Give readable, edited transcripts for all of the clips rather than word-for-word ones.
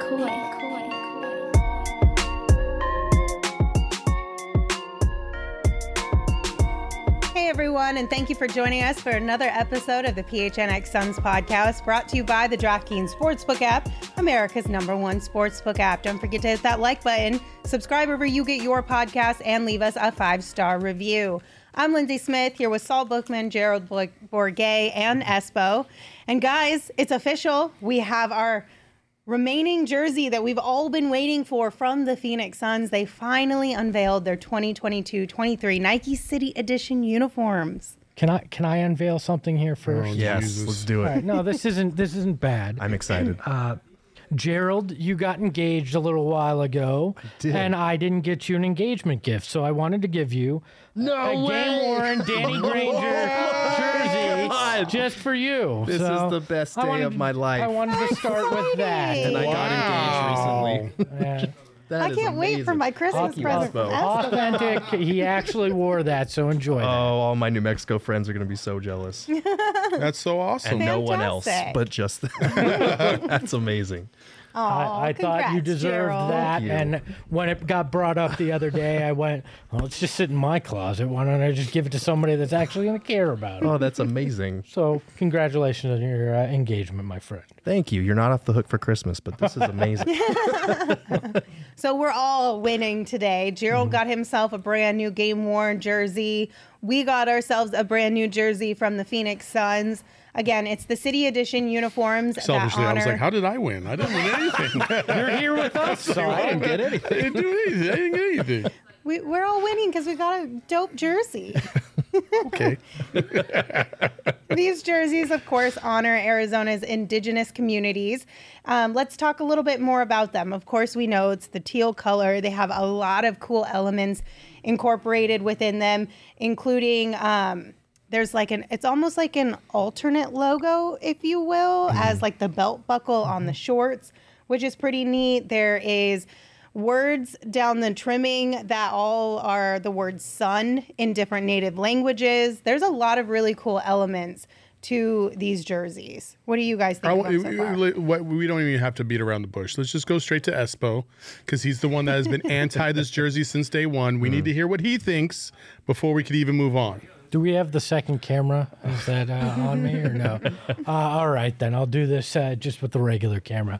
Hey everyone, and thank you for joining us for another episode of the PHNX Suns podcast, brought to you by the DraftKings Sportsbook app, America's #1 sportsbook app. Don't forget to hit that like button, subscribe wherever you get your podcast, and leave us a 5-star review. I'm Lindsay Smith, here with Saul Bookman, Gerald Bourguet, and Espo. And guys, it's official. We have our remaining jersey that we've all been waiting for from the Phoenix Suns. They finally unveiled their 2022-23 Nike City Edition uniforms. Can I unveil something here first? Oh, yes, let's do it. All right, no, this isn't bad. I'm excited. Gerald, you got engaged a little while ago, and I didn't get you an engagement gift, so I wanted to give you a game-worn Danny Granger jersey just for you. This is the best day of my life. I wanted to start with that. And I got engaged recently. Yeah. I can't wait for my Christmas present from Espo. Authentic. He actually wore that, so enjoy that. Oh, all my New Mexico friends are going to be so jealous. That's so awesome. And no one else, but just that's amazing. I thought you deserved Gerald. that, and when it got brought up the other day, I went, well, it's just sit in my closet. Why don't I just give it to somebody that's actually going to care about it? Oh, that's amazing. So congratulations on your engagement, my friend. Thank you. You're not off the hook for Christmas, but this is amazing. So we're all winning today. Gerald got himself a brand new game-worn jersey. We got ourselves a brand new jersey from the Phoenix Suns. Again, it's the City Edition uniforms. Selfishly, that honor... I was like, how did I win? I didn't win anything. You're here with us, so I didn't get I anything. didn't do anything. I didn't get anything. We're all winning because we got a dope jersey. Okay. These jerseys, of course, honor Arizona's indigenous communities. Let's talk a little bit more about them. Of course, we know it's the teal color. They have a lot of cool elements incorporated within them, including there's like it's almost like an alternate logo, if you will, as like the belt buckle on the shorts, which is pretty neat. There is words down the trimming that all are the word sun in different native languages. There's a lot of really cool elements to these jerseys. What do you guys think of them so far? We don't even have to beat around the bush. Let's just go straight to Espo, because he's the one that has been anti this jersey since day one. We need to hear what he thinks before we could even move on. do we have the second camera? Is that on me or no? All right, then I'll do this just with the regular camera.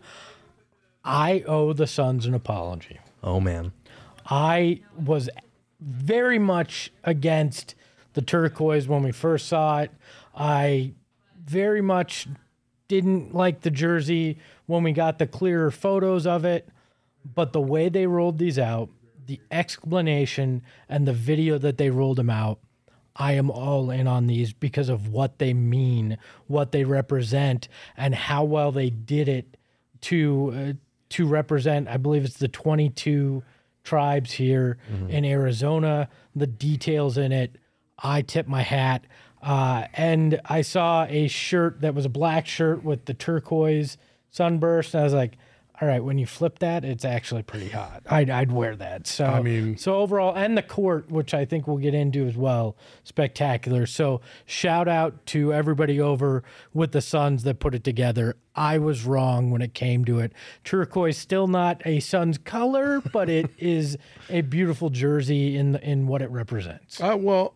I owe the Suns an apology. Oh, man. I was very much against the turquoise when we first saw it. I very much didn't like the jersey when we got the clearer photos of it. But the way they rolled these out, the explanation and the video that they rolled them out, I am all in on these because of what they mean, what they represent, and how well they did it to represent, I believe it's the 22 tribes here in Arizona, the details in it. I tip my hat. And I saw a shirt that was a black shirt with the turquoise sunburst. And I was like, all right, when you flip that, it's actually pretty hot. I'd wear that. So, I mean, so overall, and the court, which I think we'll get into as well, spectacular. So shout out to everybody over with the Suns that put it together. I was wrong when it came to it. Turquoise still not a Suns color, but it is a beautiful jersey in what it represents. Well,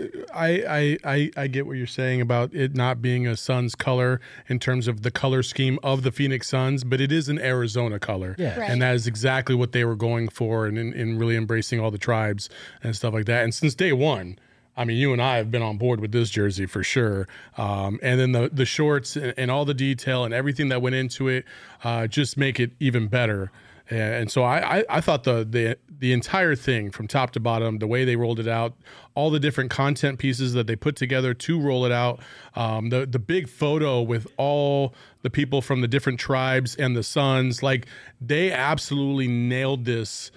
I get what you're saying about it not being a Suns color in terms of the color scheme of the Phoenix Suns, but it is an Arizona color. Yeah. Right. And that is exactly what they were going for and in really embracing all the tribes and stuff like that. And since day one, I mean, you and I have been on board with this jersey for sure. And then the shorts and all the detail and everything that went into it just make it even better. And so I thought the entire thing from top to bottom, the way they rolled it out, all the different content pieces that they put together to roll it out, the big photo with all the people from the different tribes and the Suns, like they absolutely nailed this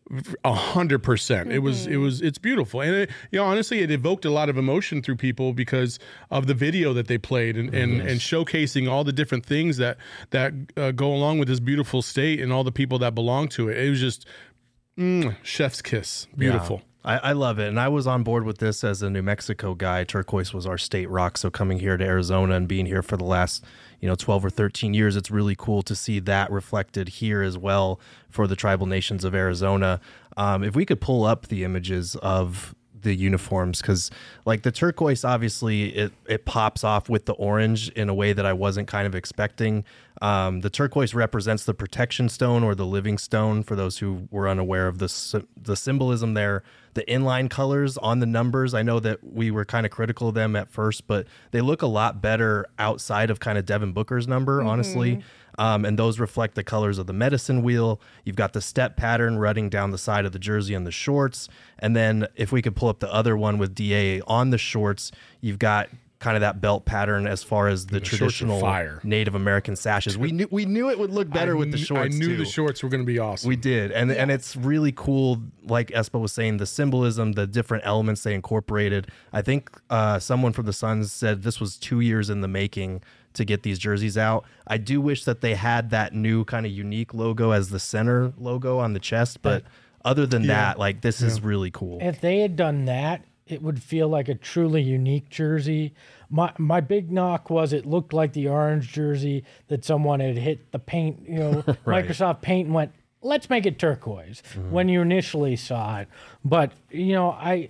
100%. It's beautiful. And it, honestly, it evoked a lot of emotion through people because of the video that they played and showcasing all the different things that go along with this beautiful state and all the people that belong to it. It was just chef's kiss. Beautiful. Yeah. I love it. And I was on board with this as a New Mexico guy. Turquoise was our state rock. So coming here to Arizona and being here for the last, 12 or 13 years, it's really cool to see that reflected here as well for the tribal nations of Arizona. If we could pull up the images of the uniforms, because like the turquoise, obviously it pops off with the orange in a way that I wasn't kind of expecting. The turquoise represents the protection stone or the living stone for those who were unaware of the symbolism there. The inline colors on the numbers, I know that we were kind of critical of them at first, but they look a lot better outside of kind of Devin Booker's number, honestly. And those reflect the colors of the medicine wheel. You've got the step pattern running down the side of the jersey and the shorts. And then if we could pull up the other one with DA on the shorts, you've got kind of that belt pattern as far as the traditional Native American sashes. We knew it would look better with the shorts. I knew too. The shorts were going to be awesome. We did. And it's really cool, like Espa was saying, the symbolism, the different elements they incorporated. I think someone from the Suns said this was 2 years in the making to get these jerseys out. I do wish that they had that new kind of unique logo as the center logo on the chest, but other than that, like this is really cool. If they had done that, it would feel like a truly unique jersey. My big knock was it looked like the orange jersey that someone had hit the paint, Right. Microsoft Paint and went, let's make it turquoise when you initially saw it. But, I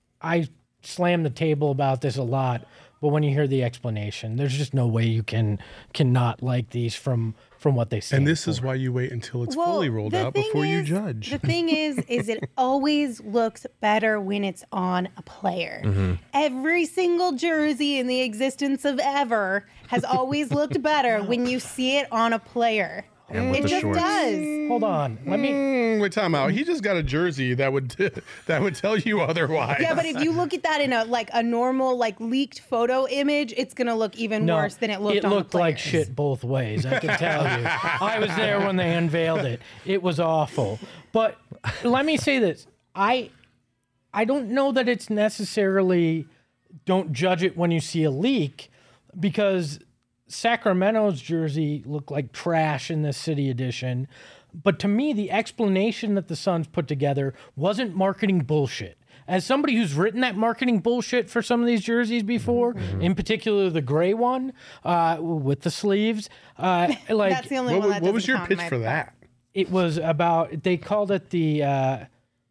slam the table about this a lot. But when you hear the explanation, there's just no way you cannot like these from what they stand And this for. is why you wait until it's fully rolled out before you judge. The thing is it always looks better when it's on a player. Every single jersey in the existence of ever has always looked better when you see it on a player. And with It the just shorts. does. Hold on. Let me. Wait, time out. He just got a jersey that would tell you otherwise. Yeah, but if you look at that in a normal leaked photo image, it's gonna look even No, worse than it looked on the looked like players. shit both ways, I can tell you. I was there when they unveiled it. It was awful. But let me say this. I don't know that it's necessarily don't judge it when you see a leak, because Sacramento's jersey looked like trash in the City Edition. But to me, the explanation that the Suns put together wasn't marketing bullshit. As somebody who's written that marketing bullshit for some of these jerseys before, in particular the gray one with the sleeves, That's the only one that what was doesn't your count pitch in my for book. that? it was about, they called it the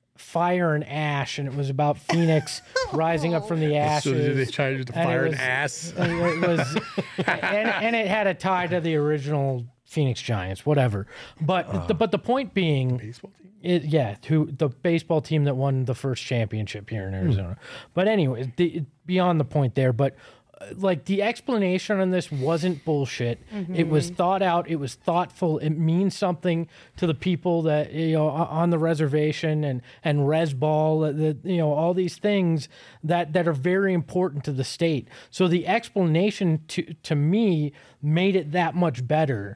Fire and Ash, and it was about Phoenix rising up from the ashes. So did they try to And it fire an was- ass? It was, and it had a tie to the original Phoenix Giants, whatever. But the point being, Baseball team? the baseball team that won the first championship here in Arizona. But anyway, beyond the point there. But like the explanation on this wasn't bullshit. It was thought out. It was thoughtful. It means something to the people that on the reservation and res ball. All these things that are very important to the state. So the explanation to me made it that much better.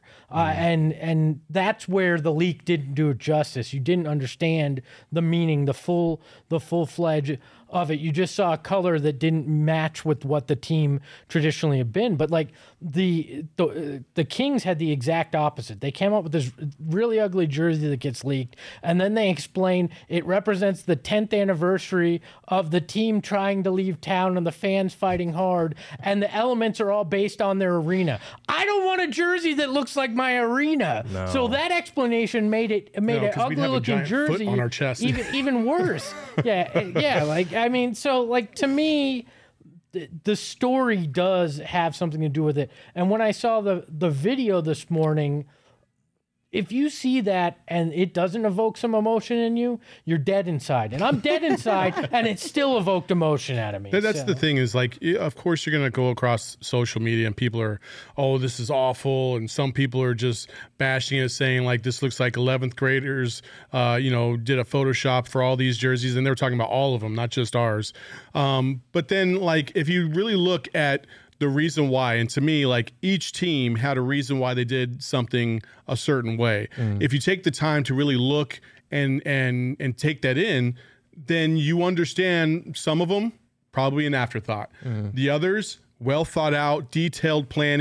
And that's where the leak didn't do it justice. You didn't understand the meaning, the full-fledged of it. You just saw a color that didn't match with what the team traditionally had been. But like the Kings had the exact opposite. They came up with this really ugly jersey that gets leaked, and then they explain it represents the 10th anniversary of the team trying to leave town and the fans fighting hard, and the elements are all based on their arena. I don't want a jersey that looks like my arena. No. So that explanation made an 'cause we'd ugly have a looking giant foot jersey on our chest. even worse. To me, the story does have something to do with it. And when I saw the video this morning, if you see that and it doesn't evoke some emotion in you, you're dead inside. And I'm dead inside, and it still evoked emotion out of me. That's So- the thing is, like, of course you're going to go across social media and people are, oh, this is awful. And some people are just bashing it, saying like, this looks like 11th graders, did a Photoshop for all these jerseys. And they were talking about all of them, not just ours. But then like, if you really look at the reason why, and to me, like each team had a reason why they did something a certain way. If you take the time to really look and take that in, then you understand some of them probably an afterthought. The others, well thought out, detailed planning,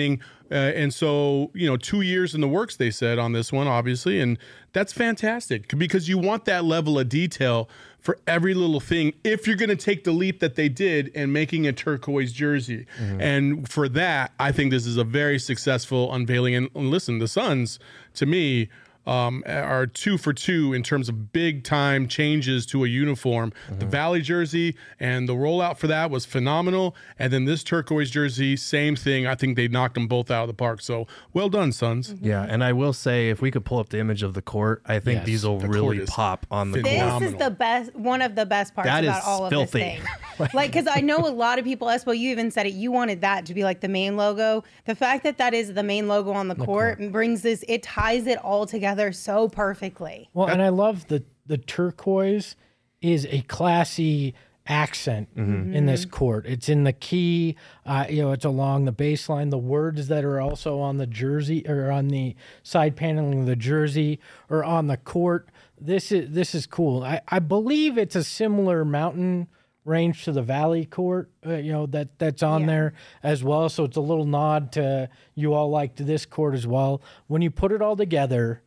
And so, 2 years in the works, they said on this one, obviously. And that's fantastic because you want that level of detail for every little thing if you're going to take the leap that they did in making a turquoise jersey. And for that, I think this is a very successful unveiling. And listen, the Suns, to me, are 2 for 2 in terms of big time changes to a uniform. The Valley jersey and the rollout for that was phenomenal. And then this turquoise jersey, same thing. I think they knocked them both out of the park. So well done, Suns. Yeah, and I will say, if we could pull up the image of the court, I think Yes. these will The really court is pop on the This court. is the best, one of the best parts That about is all of filthy. this thing. Like, because I know a lot of people, Espo, you even said it, you wanted that to be like the main logo. The fact that that is the main logo on the court brings this, it ties it all together so perfectly. Well, and I love the turquoise is a classy accent in this court. It's in the key, it's along the baseline. The words that are also on the jersey or on the side paneling of the jersey or on the court. This is cool. I believe it's a similar mountain range to the Valley court, that's on there as well. So it's a little nod to you all liked this court as well. When you put it all together,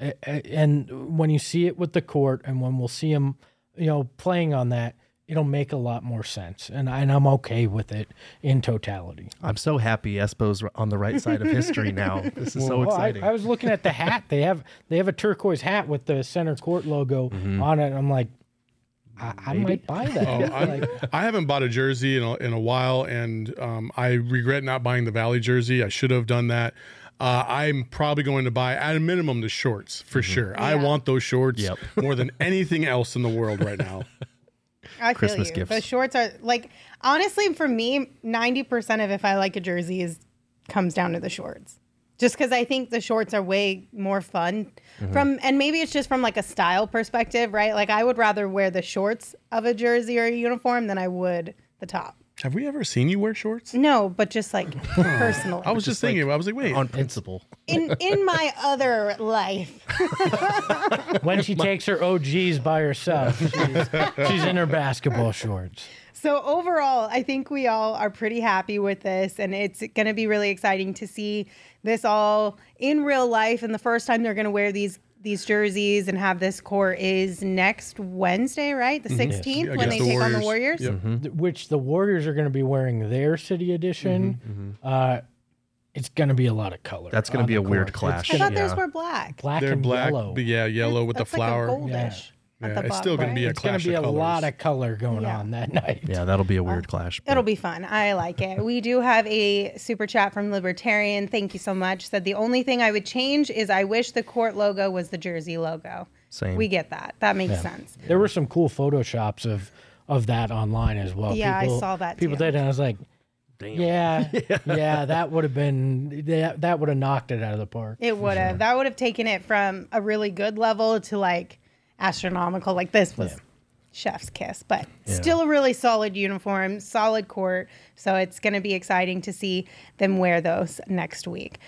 and when you see it with the court, and when we'll see him, playing on that, it'll make a lot more sense. And I'm okay with it in totality. I'm so happy Espo's on the right side of history now. This is so exciting. I was looking at the hat. They have a turquoise hat with the center court logo on it. I'm like, I might buy that. I haven't bought a jersey in a while, and I regret not buying the Valley jersey. I should have done that. I'm probably going to buy, at a minimum, the shorts for sure. I want those shorts more than anything else in the world right now. I feel Christmas you. gifts. The shorts are like, honestly, for me, 90% of if I like a jersey comes down to the shorts. Just because I think the shorts are way more fun and maybe it's just from like a style perspective, right? Like I would rather wear the shorts of a jersey or a uniform than I would the top. Have we ever seen you wear shorts? No, but just like personally. I was just thinking. I was like, wait. On principle. In my other life. When she takes her OGs by herself, she's in her basketball shorts. So overall, I think we all are pretty happy with this, and it's going to be really exciting to see this all in real life. And the first time they're going to wear these jerseys and have this court is next Wednesday, right? The 16th, when they take on the Warriors. Yep. Which the Warriors are going to be wearing their city edition. It's going to be a lot of color. That's going to be a weird court. clash. I thought theirs were black. Black They're and black, yellow. but yellow with the That's flower. Like a goldish. at the it's bottom, still going to be a It's going clash to be of a colors. lot of color going Yeah. on that night. Yeah, that'll be a weird clash. but- It'll be fun. I like it. We do have a super chat from Libertarian. Thank you so much. Said the only thing I would change is I wish the court logo was the jersey logo. Same. We get that. That makes sense. There were some cool photoshops of that online as well. Yeah, I saw that People too. did, and I was like, yeah, that would have been that would have knocked it out of the park. It would have. That would have taken it from a really good level to like astronomical. Like this was chef's kiss, but still a really solid uniform, solid court. So it's going to be exciting to see them wear those next week.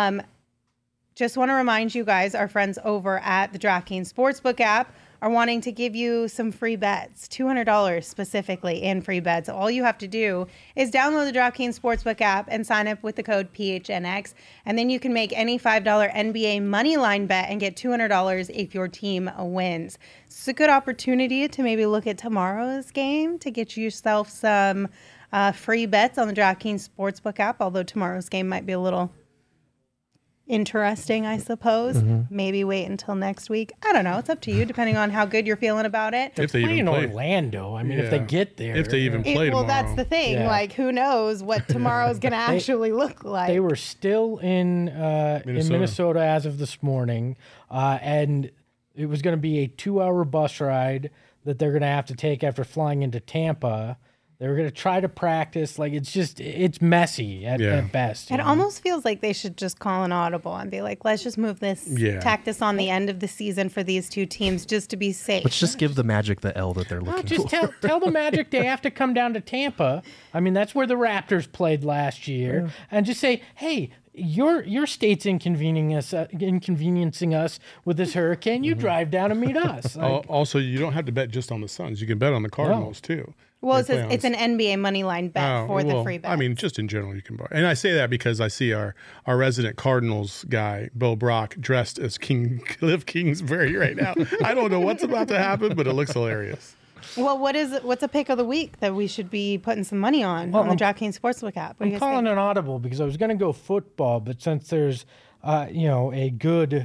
Just want to remind you guys, our friends over at the DraftKings Sportsbook app are wanting to give you some free bets, $200 specifically in free bets. All you have to do is download the DraftKings Sportsbook app and sign up with the code PHNX. And then you can make any $5 NBA money line bet and get $200 if your team wins. It's a good opportunity to maybe look at tomorrow's game to get yourself some free bets on the DraftKings Sportsbook app, although tomorrow's game might be a little interesting, I suppose. Maybe wait until next week. I don't know. It's up to you, depending on how good you're feeling about it. If they Playing even play. Orlando. I mean, if they Yeah. get there, If they even play Well, tomorrow. that's the thing. Yeah. Like, who knows what tomorrow's going to actually look like? They were still in Minnesota as of this morning, and it was going to be a 2-hour bus ride that they're going to have to take after flying into Tampa. They were going to try to practice. Like, it's messy at best. you It know? almost feels like they should just call an audible and be like, let's just move this, tack this on the end of the season for these two teams just to be safe. Let's just give the Magic the L that they're Well, looking just for. tell the Magic they have to come down to Tampa. I mean, that's where the Raptors played last year, and just say, "Hey, your state's inconveniencing us with this hurricane. You drive down and meet us." Like, Also, you don't have to bet just on the Suns. You can bet on the Cardinals too. Well, They it's, play it's an NBA money line bet for the free bet. I mean, just in general, you can buy. And I say that because I see our resident Cardinals guy, Bill Brock, dressed as Cliff Kingsbury right now. I don't know what's about to happen, but it looks hilarious. Well, what's a pick of the week that we should be putting some money on the DraftKings Sportsbook app? What do you I'm guys calling think? an audible because I was going to go football, but since there's, a good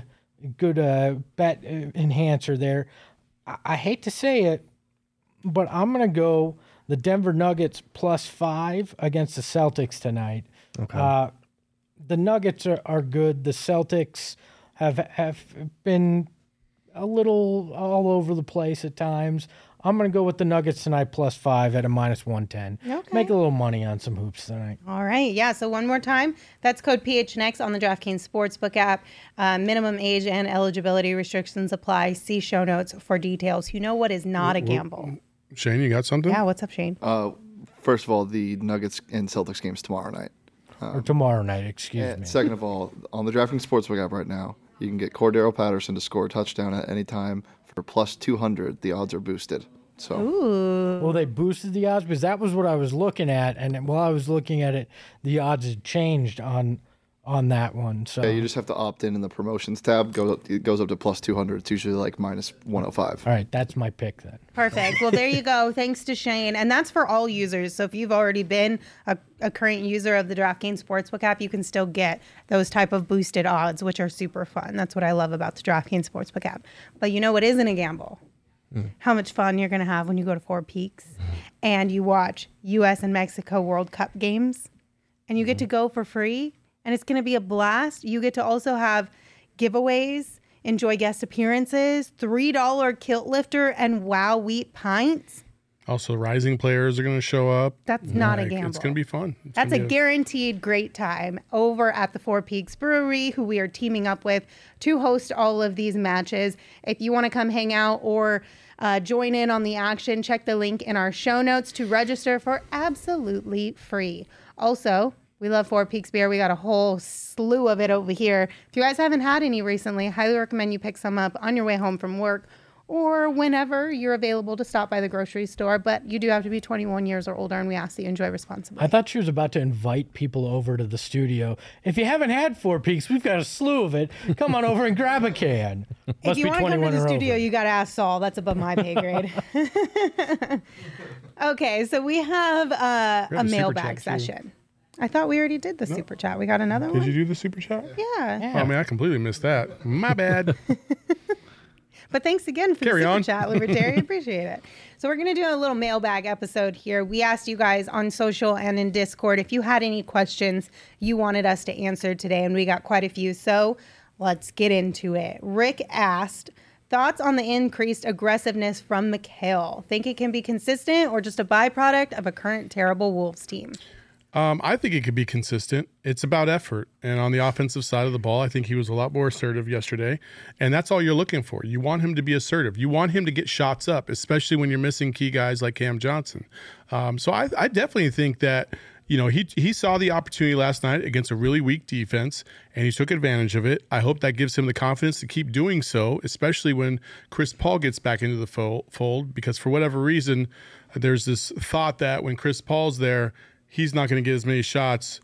bet enhancer there, I hate to say it, but I'm going to go the Denver Nuggets +5 against the Celtics tonight. Okay. The Nuggets are good. The Celtics have been a little all over the place at times. I'm going to go with the Nuggets tonight +5 at a -110. Okay. Make a little money on some hoops tonight. All right. Yeah. So one more time, that's code PHNX on the DraftKings Sportsbook app. Minimum age and eligibility restrictions apply. See show notes for details. You know what is not a gamble. Shane, you got something? Yeah. What's up, Shane? First of all, the Nuggets and Celtics game's tomorrow night. Or tomorrow night, excuse And me. second of all, on the DraftKings Sportsbook app right now, you can get Cordero Patterson to score a touchdown at any time for +200. The odds are boosted. So Well, they boosted the odds because that was what I was looking at, and while I was looking at it, the odds had changed on that one. So yeah, you just have to opt in the promotions tab. It goes up to +200. It's usually like -105. all right, that's my pick then. Perfect. Well, there you go. Thanks to Shane. And that's for all users. So if you've already been a current user of the DraftKings Sportsbook app, you can still get those type of boosted odds, which are super fun. That's what I love about the DraftKings Sportsbook app. But you know what isn't a gamble? How much fun you're going to have when you go to Four Peaks and you watch U.S. and Mexico World Cup games and you get to go for free and it's going to be a blast. You get to also have giveaways, enjoy guest appearances, $3 kilt lifter and Wow Wheat pints. Also, rising players are going to show up. That's not a Like, gamble. It's going to be fun. It's That's gonna a be guaranteed great time over at the Four Peaks Brewery, who we are teaming up with to host all of these matches. If you want to come hang out or join in on the action, check the link in our show notes to register for absolutely free. Also, we love Four Peaks beer. We got a whole slew of it over here. If you guys haven't had any recently, I highly recommend you pick some up on your way home from work or whenever you're available to stop by the grocery store. But you do have to be 21 years or older, and we ask that you enjoy responsibly. I thought she was about to invite people over to the studio. If you haven't had Four Peaks, we've got a slew of it. Come on over and grab a can. If you want to come to the or studio, over. you got to ask Saul. That's above my pay grade. Okay, so we have a super mailbag chat, too. session. I thought we already did the super chat. We got another Did one? you do the super chat? Yeah. Oh, man, I completely missed that. My bad. But thanks again for Carry the super on. chat, Libertarian. Appreciate it. So we're going to do a little mailbag episode here. We asked you guys on social and in Discord if you had any questions you wanted us to answer today, and we got quite a few. So let's get into it. Rick asked, thoughts on the increased aggressiveness from McHale? Think it can be consistent or just a byproduct of a current terrible Wolves team? I think it could be consistent. It's about effort. And on the offensive side of the ball, I think he was a lot more assertive yesterday. And that's all you're looking for. You want him to be assertive. You want him to get shots up, especially when you're missing key guys like Cam Johnson. So I definitely think that, he saw the opportunity last night against a really weak defense, and he took advantage of it. I hope that gives him the confidence to keep doing so, especially when Chris Paul gets back into the fold, because for whatever reason, there's this thought that when Chris Paul's there, he's not going to get as many shots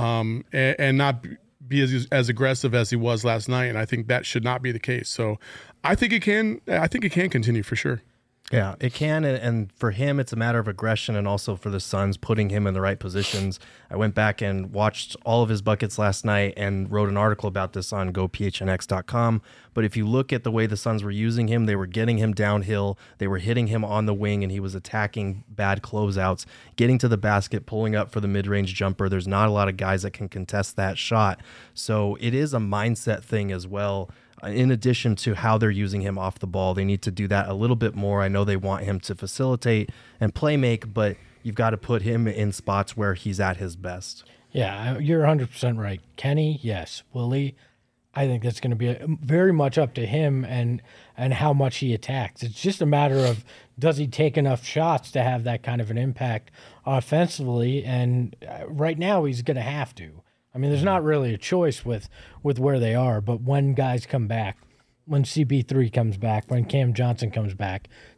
and not be as aggressive as he was last night. And I think that should not be the case. So I think it can continue for sure. Yeah, it can, and for him, it's a matter of aggression, and also for the Suns, putting him in the right positions. I went back and watched all of his buckets last night and wrote an article about this on gophnx.com. But if you look at the way the Suns were using him, they were getting him downhill, they were hitting him on the wing, and he was attacking bad closeouts, getting to the basket, pulling up for the mid-range jumper. There's not a lot of guys that can contest that shot. So it is a mindset thing as well. In addition to how they're using him off the ball, they need to do that a little bit more. I know they want him to facilitate and play make, but you've got to put him in spots where he's at his best. Yeah, you're 100% right. Kenny, yes. Willie, I think that's going to be very much up to him and how much he attacks. It's just a matter of, does he take enough shots to have that kind of an impact offensively? And right now he's going to have to. I mean, there's not really a choice with where they are, but when guys come back, when CP3 comes back, when Cam Johnson comes back,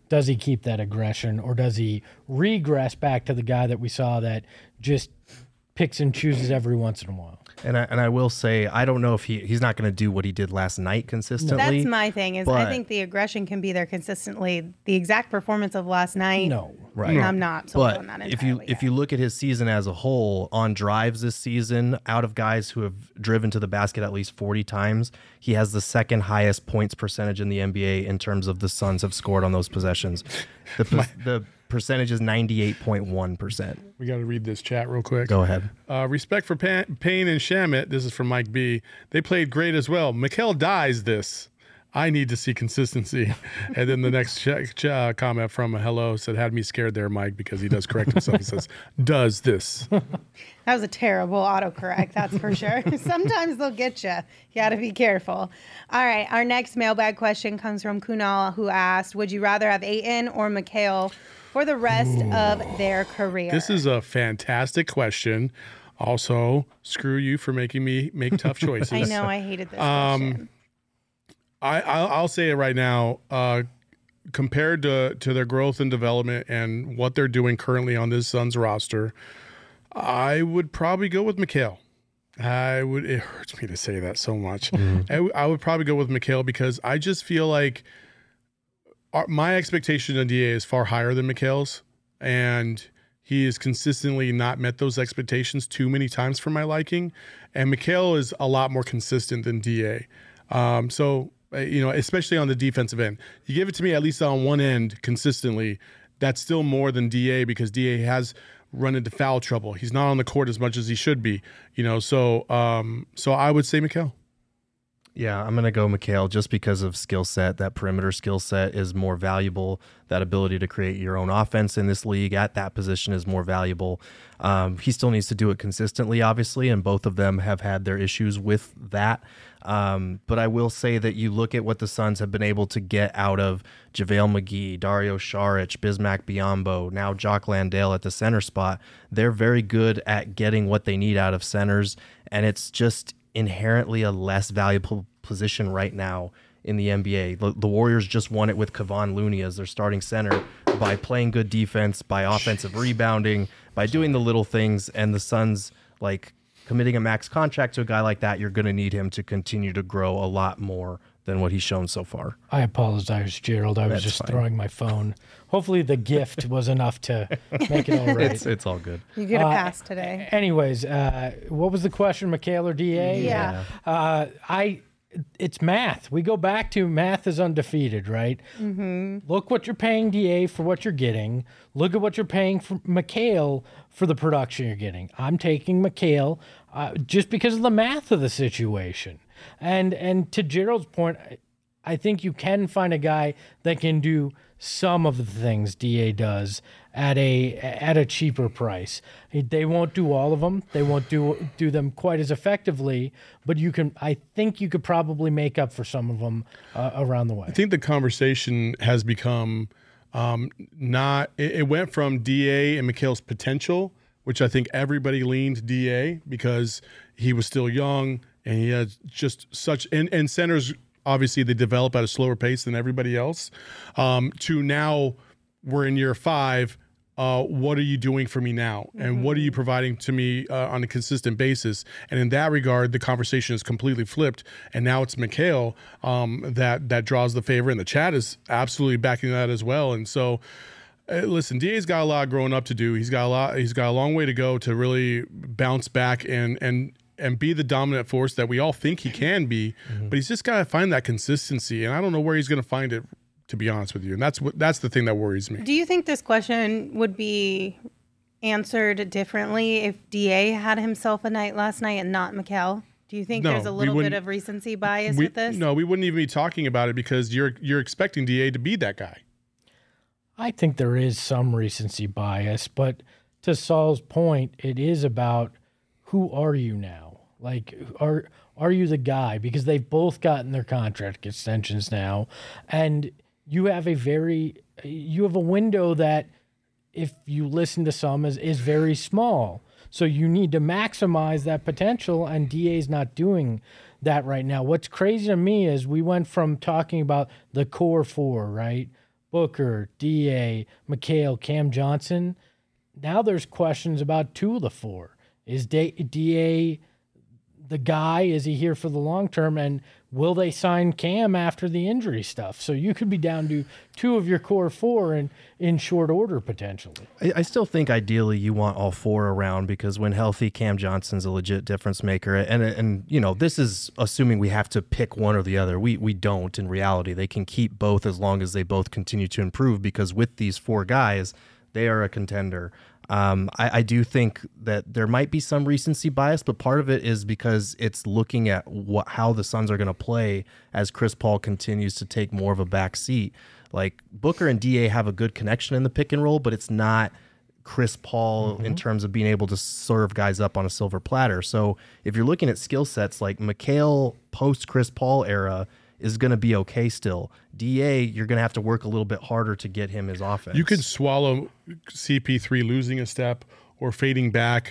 does he keep that aggression, or does he regress back to the guy that we saw that just picks and chooses every once in a while? And I will say, I don't know if he's not going to do what he did last night consistently. That's my thing. Is I think the aggression can be there consistently. The exact performance of last night, No. Right. I'm not sold But on that if entirely. you look at his season as a whole, on drives this season, out of guys who have driven to the basket at least 40 times, he has the second highest points percentage in the NBA in terms of the Suns have scored on those possessions. The percentage is 98.1%. We got to read this chat real quick. Go ahead. Respect for Payne and Shamit. This is from Mike B. They played great as well. Mikal dies this. I need to see consistency. And then the next comment from Hello said, had me scared there, Mike, because he does correct himself. He says, does this. That was a terrible autocorrect, that's for sure. Sometimes they'll get you. You got to be careful. All right, our next mailbag question comes from Kunal, who asked, would you rather have Ayton or Mikal for the rest of their career? This is a fantastic question. Also, screw you for making me make tough choices. I know, I hated this question. I'll say it right now. Compared to their growth and development and what they're doing currently on this Suns roster, I would probably go with Mikal. It hurts me to say that so much. I would probably go with Mikal because I just feel like my expectation of DA is far higher than Mikal's, and he has consistently not met those expectations too many times for my liking. And Mikal is a lot more consistent than DA. Especially on the defensive end, you give it to me at least on one end consistently. That's still more than DA because DA has run into foul trouble. He's not on the court as much as he should be, So I would say Mikal. Yeah, I'm going to go Mikal just because of skill set. That perimeter skill set is more valuable. That ability to create your own offense in this league at that position is more valuable. He still needs to do it consistently, obviously, and both of them have had their issues with that. But I will say that you look at what the Suns have been able to get out of JaVale McGee, Dario Saric, Bismack Biyombo, now Jock Landale at the center spot. They're very good at getting what they need out of centers, and it's just inherently a less valuable position right now in the NBA. The Warriors just won it with Kevon Looney as their starting center by playing good defense, by offensive rebounding, by doing the little things, and the Suns, committing a max contract to a guy like that, you're going to need him to continue to grow a lot more than what he's shown so far. I apologize, Gerald. I was just throwing my phone. Hopefully the gift was enough to make it all right. It's all good. You get a pass today. Anyways, what was the question, Mikal or DA? Yeah. It's math. We go back to math is undefeated, right? Mm-hmm. Look what you're paying DA for what you're getting. Look at what you're paying for Mikal for the production you're getting. I'm taking Mikal just because of the math of the situation. And to Gerald's point, I think you can find a guy that can do some of the things DA does at a cheaper price. They won't do all of them. They won't do them quite as effectively, but I think you could probably make up for some of them around the way. I think the conversation has become it went from DA and Mikal's potential, which I think everybody leaned DA because he was still young and he had just such and centers. Obviously, they develop at a slower pace than everybody else. To now, we're in year 5. What are you doing for me now? And what are you providing to me on a consistent basis? And in that regard, the conversation is completely flipped. And now it's Mikal that draws the favor. And the chat is absolutely backing that as well. And so, listen, DA's got a lot growing up to do. He's got a long way to go to really bounce back and be the dominant force that we all think he can be, but he's just got to find that consistency, and I don't know where he's going to find it, to be honest with you. And that's the thing that worries me. Do you think this question would be answered differently if DA had himself a night last night and not Mikal? Do you think there's a little bit of recency bias with this? No, we wouldn't even be talking about it because you're expecting DA to be that guy. I think there is some recency bias, but to Saul's point, it is about who are you now? Are you the guy? Because they've both gotten their contract extensions now, and you have a window that, if you listen to some, is very small. So you need to maximize that potential, and DA's not doing that right now. What's crazy to me is we went from talking about the core 4, right? Booker, DA, McHale, Cam Johnson. Now there's questions about 2 of the 4. Is DA the guy? Is he here for the long term? And will they sign Cam after the injury stuff? So you could be down to 2 of your core 4 in short order potentially. I still think ideally you want all 4 around, because when healthy, Cam Johnson's a legit difference maker. And you know, this is assuming we have to pick one or the other. We don't in reality. They can keep both as long as they both continue to improve, because with these 4 guys, they are a contender. I do think that there might be some recency bias, but part of it is because it's looking at how the Suns are going to play as Chris Paul continues to take more of a back seat. Like, Booker and DA have a good connection in the pick and roll, but it's not Chris Paul in terms of being able to serve guys up on a silver platter. So if you're looking at skill sets, like McHale post Chris Paul era is going to be okay still. DA, you're going to have to work a little bit harder to get him his offense. You could swallow CP3 losing a step or fading back,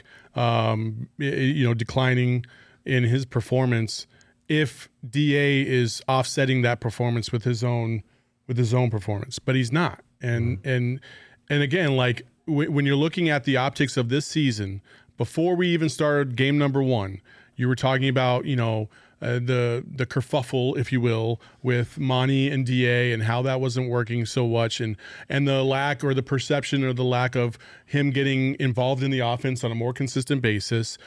declining in his performance if DA is offsetting that performance with his own performance, but he's not. And again, like when you're looking at the optics of this season, before we even started game number 1, you were talking about, the kerfuffle, if you will, with Monty and DA and how that wasn't working so much, and the lack or the perception or the lack of him getting involved in the offense on a more consistent basis.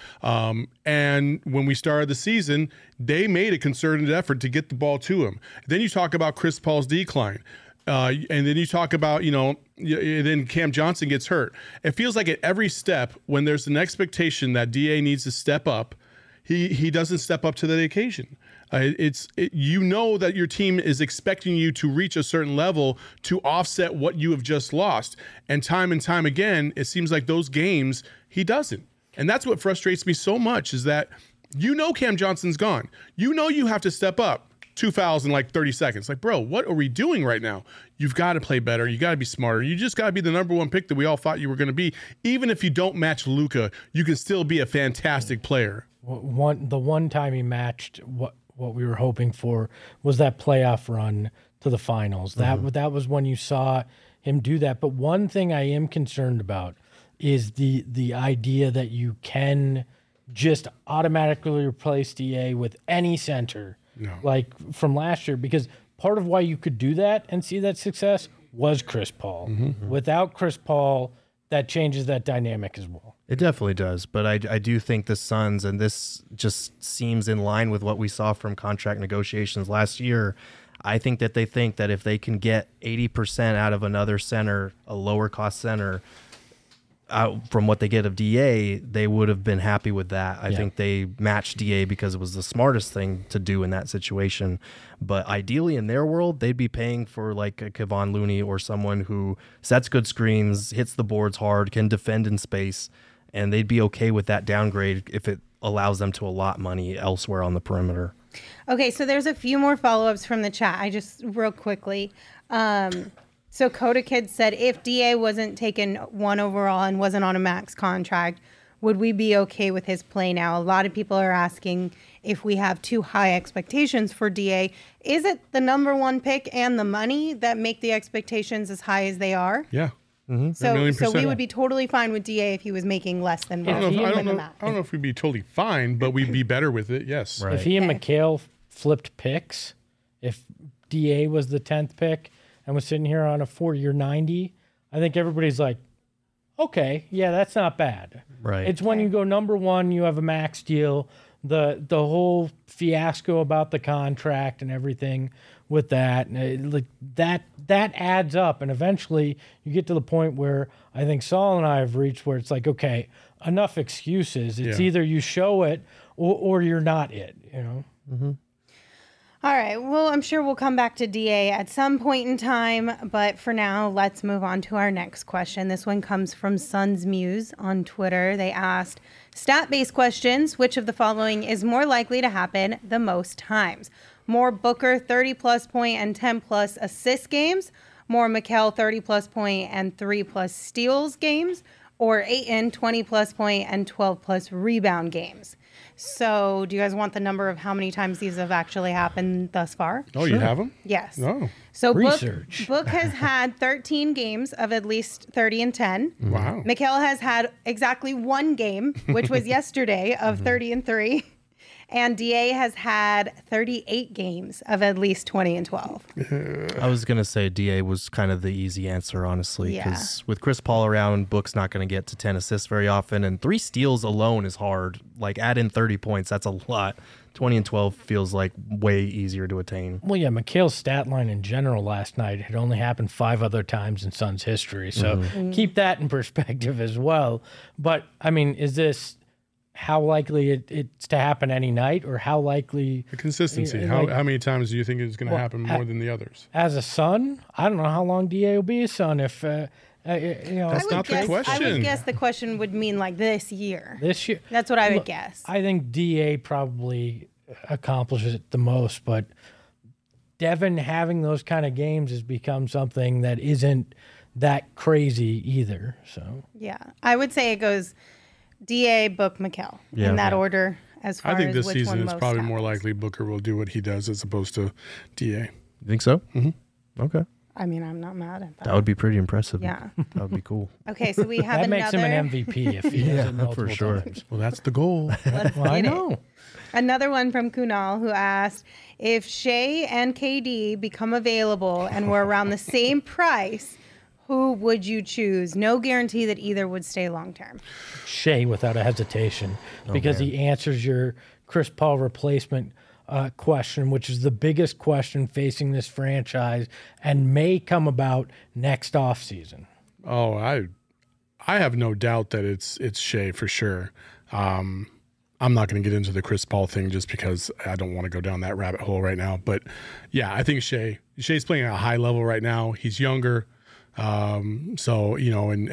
And when we started the season, they made a concerted effort to get the ball to him. Then you talk about Chris Paul's decline. And then you talk about, then Cam Johnson gets hurt. It feels like at every step when there's an expectation that DA needs to step up, he doesn't step up to the occasion. You know that your team is expecting you to reach a certain level to offset what you have just lost. And time again, it seems like those games, he doesn't. And that's what frustrates me so much, is that Cam Johnson's gone. You have to step up. 2 fouls in like 30 seconds. Like, bro, what are we doing right now? You've got to play better. You got to be smarter. You just got to be the number 1 pick that we all thought you were going to be. Even if you don't match Luka, you can still be a fantastic player. The one time he matched what we were hoping for was that playoff run to the finals. That was when you saw him do that. But one thing I am concerned about is the idea that you can just automatically replace DA with any center. No. Like from last year, because part of why you could do that and see that success was Chris Paul. Without Chris Paul, that changes that dynamic as well. It definitely does, but I do think the Suns, and this just seems in line with what we saw from contract negotiations last year, I think that they think that if they can get 80% out of another center, a lower cost center, from what they get of DA, they would have been happy with that. I think they matched DA because it was the smartest thing to do in that situation. But ideally, in their world, they'd be paying for like a Kevon Looney or someone who sets good screens, hits the boards hard, can defend in space, and they'd be okay with that downgrade if it allows them to allot money elsewhere on the perimeter. Okay, so there's a few more follow-ups from the chat. I just real quickly. So Coda Kid said, if DA wasn't taken 1 overall and wasn't on a max contract, would we be okay with his play now? A lot of people are asking if we have too high expectations for DA. Is it the number 1 pick and the money that make the expectations as high as they are? Yeah. So we would be totally fine with DA if he was making less than I don't know if we'd be totally fine, but we'd be better with it. Yes. Right. If he and McHale flipped picks, if DA was the 10th pick and was sitting here on a 4-year $90, I think everybody's like, okay, yeah, that's not bad. Right. It's when you go number 1, you have a max deal, the whole fiasco about the contract and everything with that, like that adds up, and eventually you get to the point where I think Saul and I have reached where it's like, okay, enough excuses. It's either you show it or you're not it, All right. Well, I'm sure we'll come back to DA at some point in time, but for now, let's move on to our next question. This one comes from Suns Muse on Twitter. They asked, stat-based questions, which of the following is more likely to happen the most times? More Booker 30-plus point and 10-plus assist games, more McHale 30-plus point and 3-plus steals games, or Ayton 20-plus point and 12-plus rebound games? So do you guys want the number of how many times these have actually happened thus far? Oh, you have them? Yes. Oh, So Research. Book has had 13 games of at least 30 and 10. wow. Mikhail has had exactly one game, which was yesterday, of 30 and 3. And DA has had 38 games of at least 20 and 12. I was going to say DA was kind of the easy answer, honestly, Yeah. because with Chris Paul around, Book's not going to get to 10 assists very often, and 3 steals alone is hard. Like, add in 30 points, that's a lot. 20 and 12 feels like way easier to attain. Well, yeah, Mikhail's stat line in general last night had only happened 5 other times in Suns history. So keep that in perspective as well. But, I mean, is this how likely it's to happen any night, or how likely The consistency. Yeah, How like- many times do you think it's going to happen more than the others? as a Sun? I don't know how long DA will be a Sun if, That's I not the I question. would guess the question would mean like this year. this year. That's what I would Look, guess. I think DA probably accomplishes it the most, but Devin having those kind of games has become something that isn't that crazy either. So Yeah. I would say it goes DA, Book, Mikhail Yeah. in that order as far I think as this which season one it's most probably more happens. likely Booker will do what he does as opposed to DA. You think so? Mm-hmm. Okay. I mean, I'm not mad at that. That would be pretty impressive. Yeah. That would be cool. Okay, so we have that another makes him an MVP if he does it multiple for sure. times. Well, that's the goal. Let's Well, I get it. know. Another one from Kunal who asked if Shea and KD become available and were around the same price, who would you choose? No guarantee that either would stay long term. Shea without a hesitation because he answers your Chris Paul replacement question, which is the biggest question facing this franchise and may come about next offseason. Oh, I have no doubt that it's Shea for sure. I'm not going to get into the Chris Paul thing just because I don't want to go down that rabbit hole right now. But yeah, I think Shea's playing at a high level right now. He's younger. So, you know, and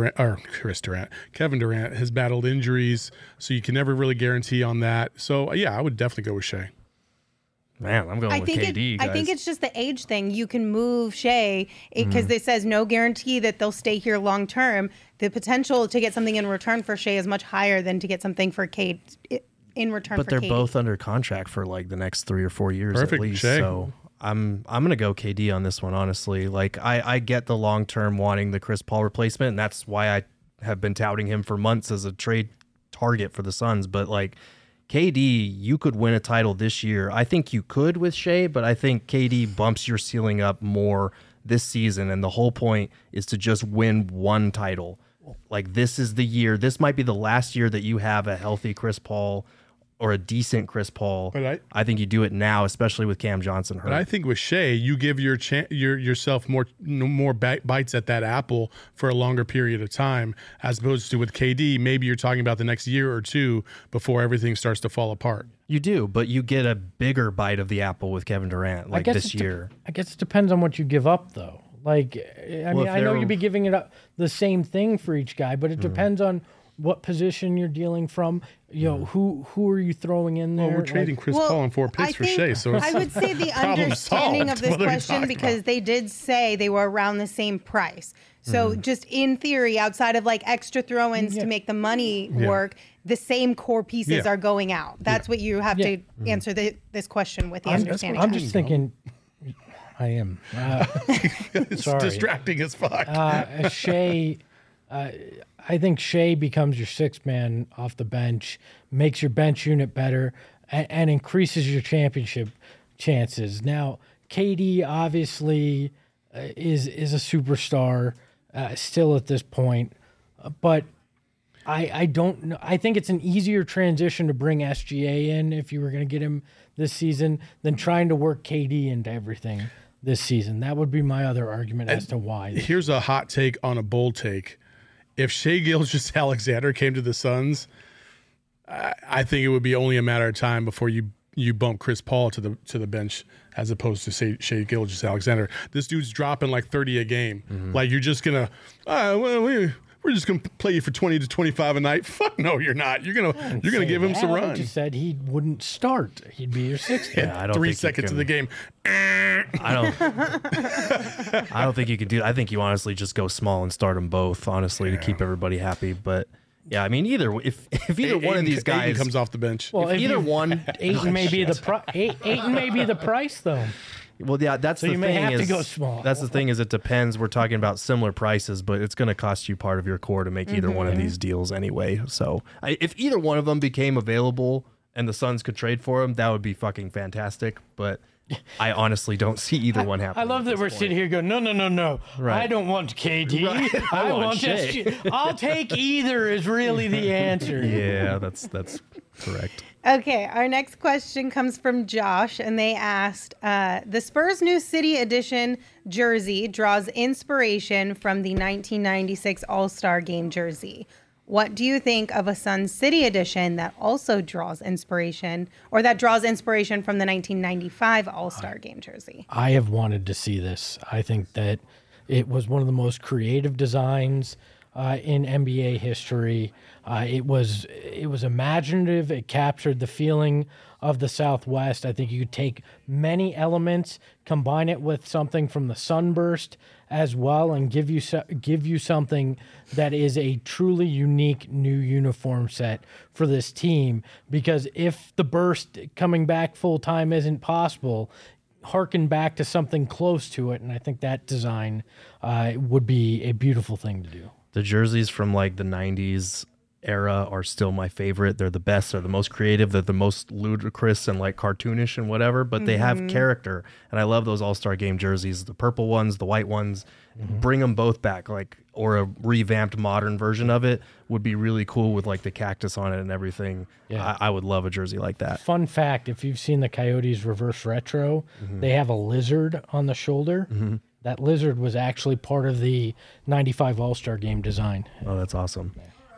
Kevin Durant has battled injuries, so you can never really guarantee on that. So yeah, I would definitely go with Shea. Man, I'm going I with think KD, I guys. think it's just the age thing. You can move Shea because it says no guarantee that they'll stay here long term. The potential to get something in return for Shea is much higher than to get something for Cade in return But for they're KD. both under contract for like the next 3 or 4 years Perfect, at least. Shea. So I'm gonna go KD on this one, honestly. Like I get the long term wanting the Chris Paul replacement, and that's why I have been touting him for months as a trade target for the Suns. But like KD, you could win a title this year. I think you could with Shea, but I think KD bumps your ceiling up more this season, and the whole point is to just win one title. Like this is the year. This might be the last year that you have a healthy Chris Paul or a decent Chris Paul. But I think you do it now, especially with Cam Johnson hurt. But I think with Shea, you give yourself more bites at that apple for a longer period of time, as opposed to with KD, maybe you're talking about the next year or two before everything starts to fall apart. You do, but you get a bigger bite of the apple with Kevin Durant like this year. I guess it depends on what you give up, though. Like, I mean, if I know they're- you'd be giving it up the same thing for each guy, but it depends on what position you're dealing from. You know, who are you throwing in there? Well, we're trading Chris Well, Paul and 4 picks I for think- Shea, so I would say the problem understanding solved. of this What are we question, talking because about? they did say they were around the same price. So just in theory, outside of like extra throw-ins to make the money work, the same core pieces Yeah. are going out. That's what you have to answer this question with the understanding. I'm just thinking. I am. it's sorry. distracting as fuck. Shea, I think Shea becomes your sixth man off the bench, makes your bench unit better, and increases your championship chances. Now, KD obviously is a superstar still at this point, but I don't know. I think it's an easier transition to bring SGA in if you were going to get him this season than trying to work KD into everything this season. That would be my other argument as to why. Here's a hot take on a bold take. If Shea Gilgeous-Alexander came to the Suns, I think it would be only a matter of time before you bump Chris Paul to the bench as opposed to Shea Gilgeous-Alexander. This dude's dropping like 30 a game. Like you're just gonna, we're just gonna play you for 20 to 25 a night. Fuck no, you're not. You're gonna give him some I run. just said he wouldn't start. He'd be your sixth. man. Yeah, I don't 3 think you seconds can- of the game. I don't think you could do. I think you honestly just go small and start them both, honestly, to keep everybody happy. But Yeah, I mean, if either one of these guys comes off the bench. Well, if either one, Ayton may be Ayton may be the price though. well, yeah, that's So the you thing. may have to is, go small. That's the thing is, it depends. We're talking about similar prices, but it's going to cost you part of your core to make either one of these deals anyway. So if either one of them became available and the Suns could trade for them, that would be fucking fantastic. But I honestly don't see either one happening. I love that we're sitting here going, no. Right. I don't want KD. Right. I want Shea. just. I'll take either is really the answer. Yeah, that's correct. Okay, our next question comes from Josh, and they asked, the Spurs New City Edition jersey draws inspiration from the 1996 All-Star Game jersey. What do you think of a Sun City Edition that also draws inspiration, or that draws inspiration from the 1995 All-Star Game jersey? I have wanted to see this. I think that it was one of the most creative designs in NBA history. It was imaginative. It captured the feeling of the Southwest. I think you could take many elements, combine it with something from the Sunburst as well, and give you something that is a truly unique new uniform set for this team. Because if the burst coming back full time isn't possible, harken back to something close to it, and I think that design would be a beautiful thing to do. The jerseys from like the 90s era are still my favorite. They're the best. They're the most creative. They're the most ludicrous and like cartoonish and whatever, but they have character. And I love those All-Star Game jerseys, the purple ones, the white ones. Bring them both back, like, or a revamped modern version of it would be really cool with like the cactus on it and everything. Yeah. I would love a jersey like that. Fun fact, if you've seen the Coyotes reverse retro, they have a lizard on the shoulder. That lizard was actually part of the 95 All-Star Game design. Oh, that's awesome.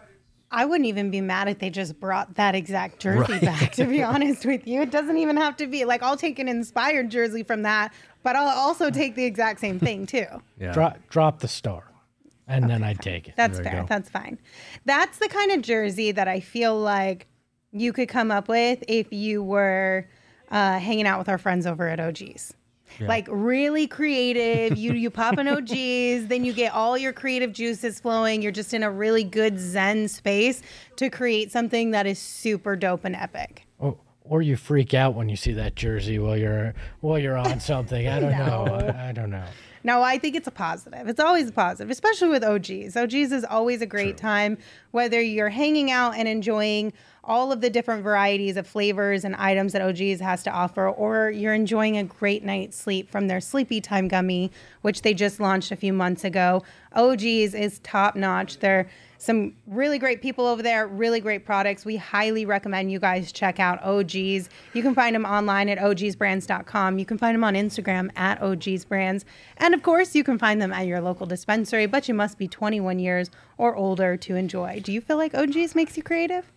I wouldn't even be mad if they just brought that exact jersey back, to be honest with you. It doesn't even have to be, like, I'll take an inspired jersey from that, but I'll also take the exact same thing, too. Yeah. Drop the star, and then I'd take it. That's fair. That's fine. That's the kind of jersey that I feel like you could come up with if you were hanging out with our friends over at OG's. Yeah. Like really creative. You pop an OG's, then you get all your creative juices flowing. You're just in a really good Zen space to create something that is super dope and epic. Or you freak out when you see that jersey while you're on something. I don't know. I don't know. No, I think it's a positive. It's always a positive, especially with OG's. OG's is always a great time, whether you're hanging out and enjoying all of the different varieties of flavors and items that OG's has to offer, or you're enjoying a great night's sleep from their Sleepy Time gummy, which they just launched a few months ago. OG's is top notch. They're some really great people over there, really great products. We highly recommend you guys check out OG's. You can find them online at ogsbrands.com. You can find them on Instagram at ogsbrands. And of course, you can find them at your local dispensary, but you must be 21 years or older to enjoy. Do you feel like OG's makes you creative?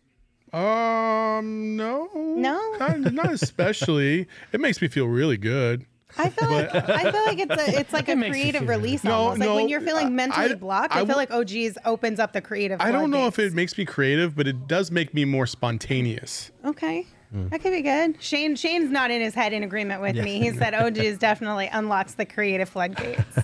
No. No? Not especially. It makes me feel really good. I feel like it's like a creative release almost. Like when you're feeling mentally blocked, I feel like OG's opens up the creative. I don't know if it makes me creative, but it does make me more spontaneous. Okay. That could be good. Shane's not in his head in agreement with me. He said OG's definitely unlocks the creative floodgates.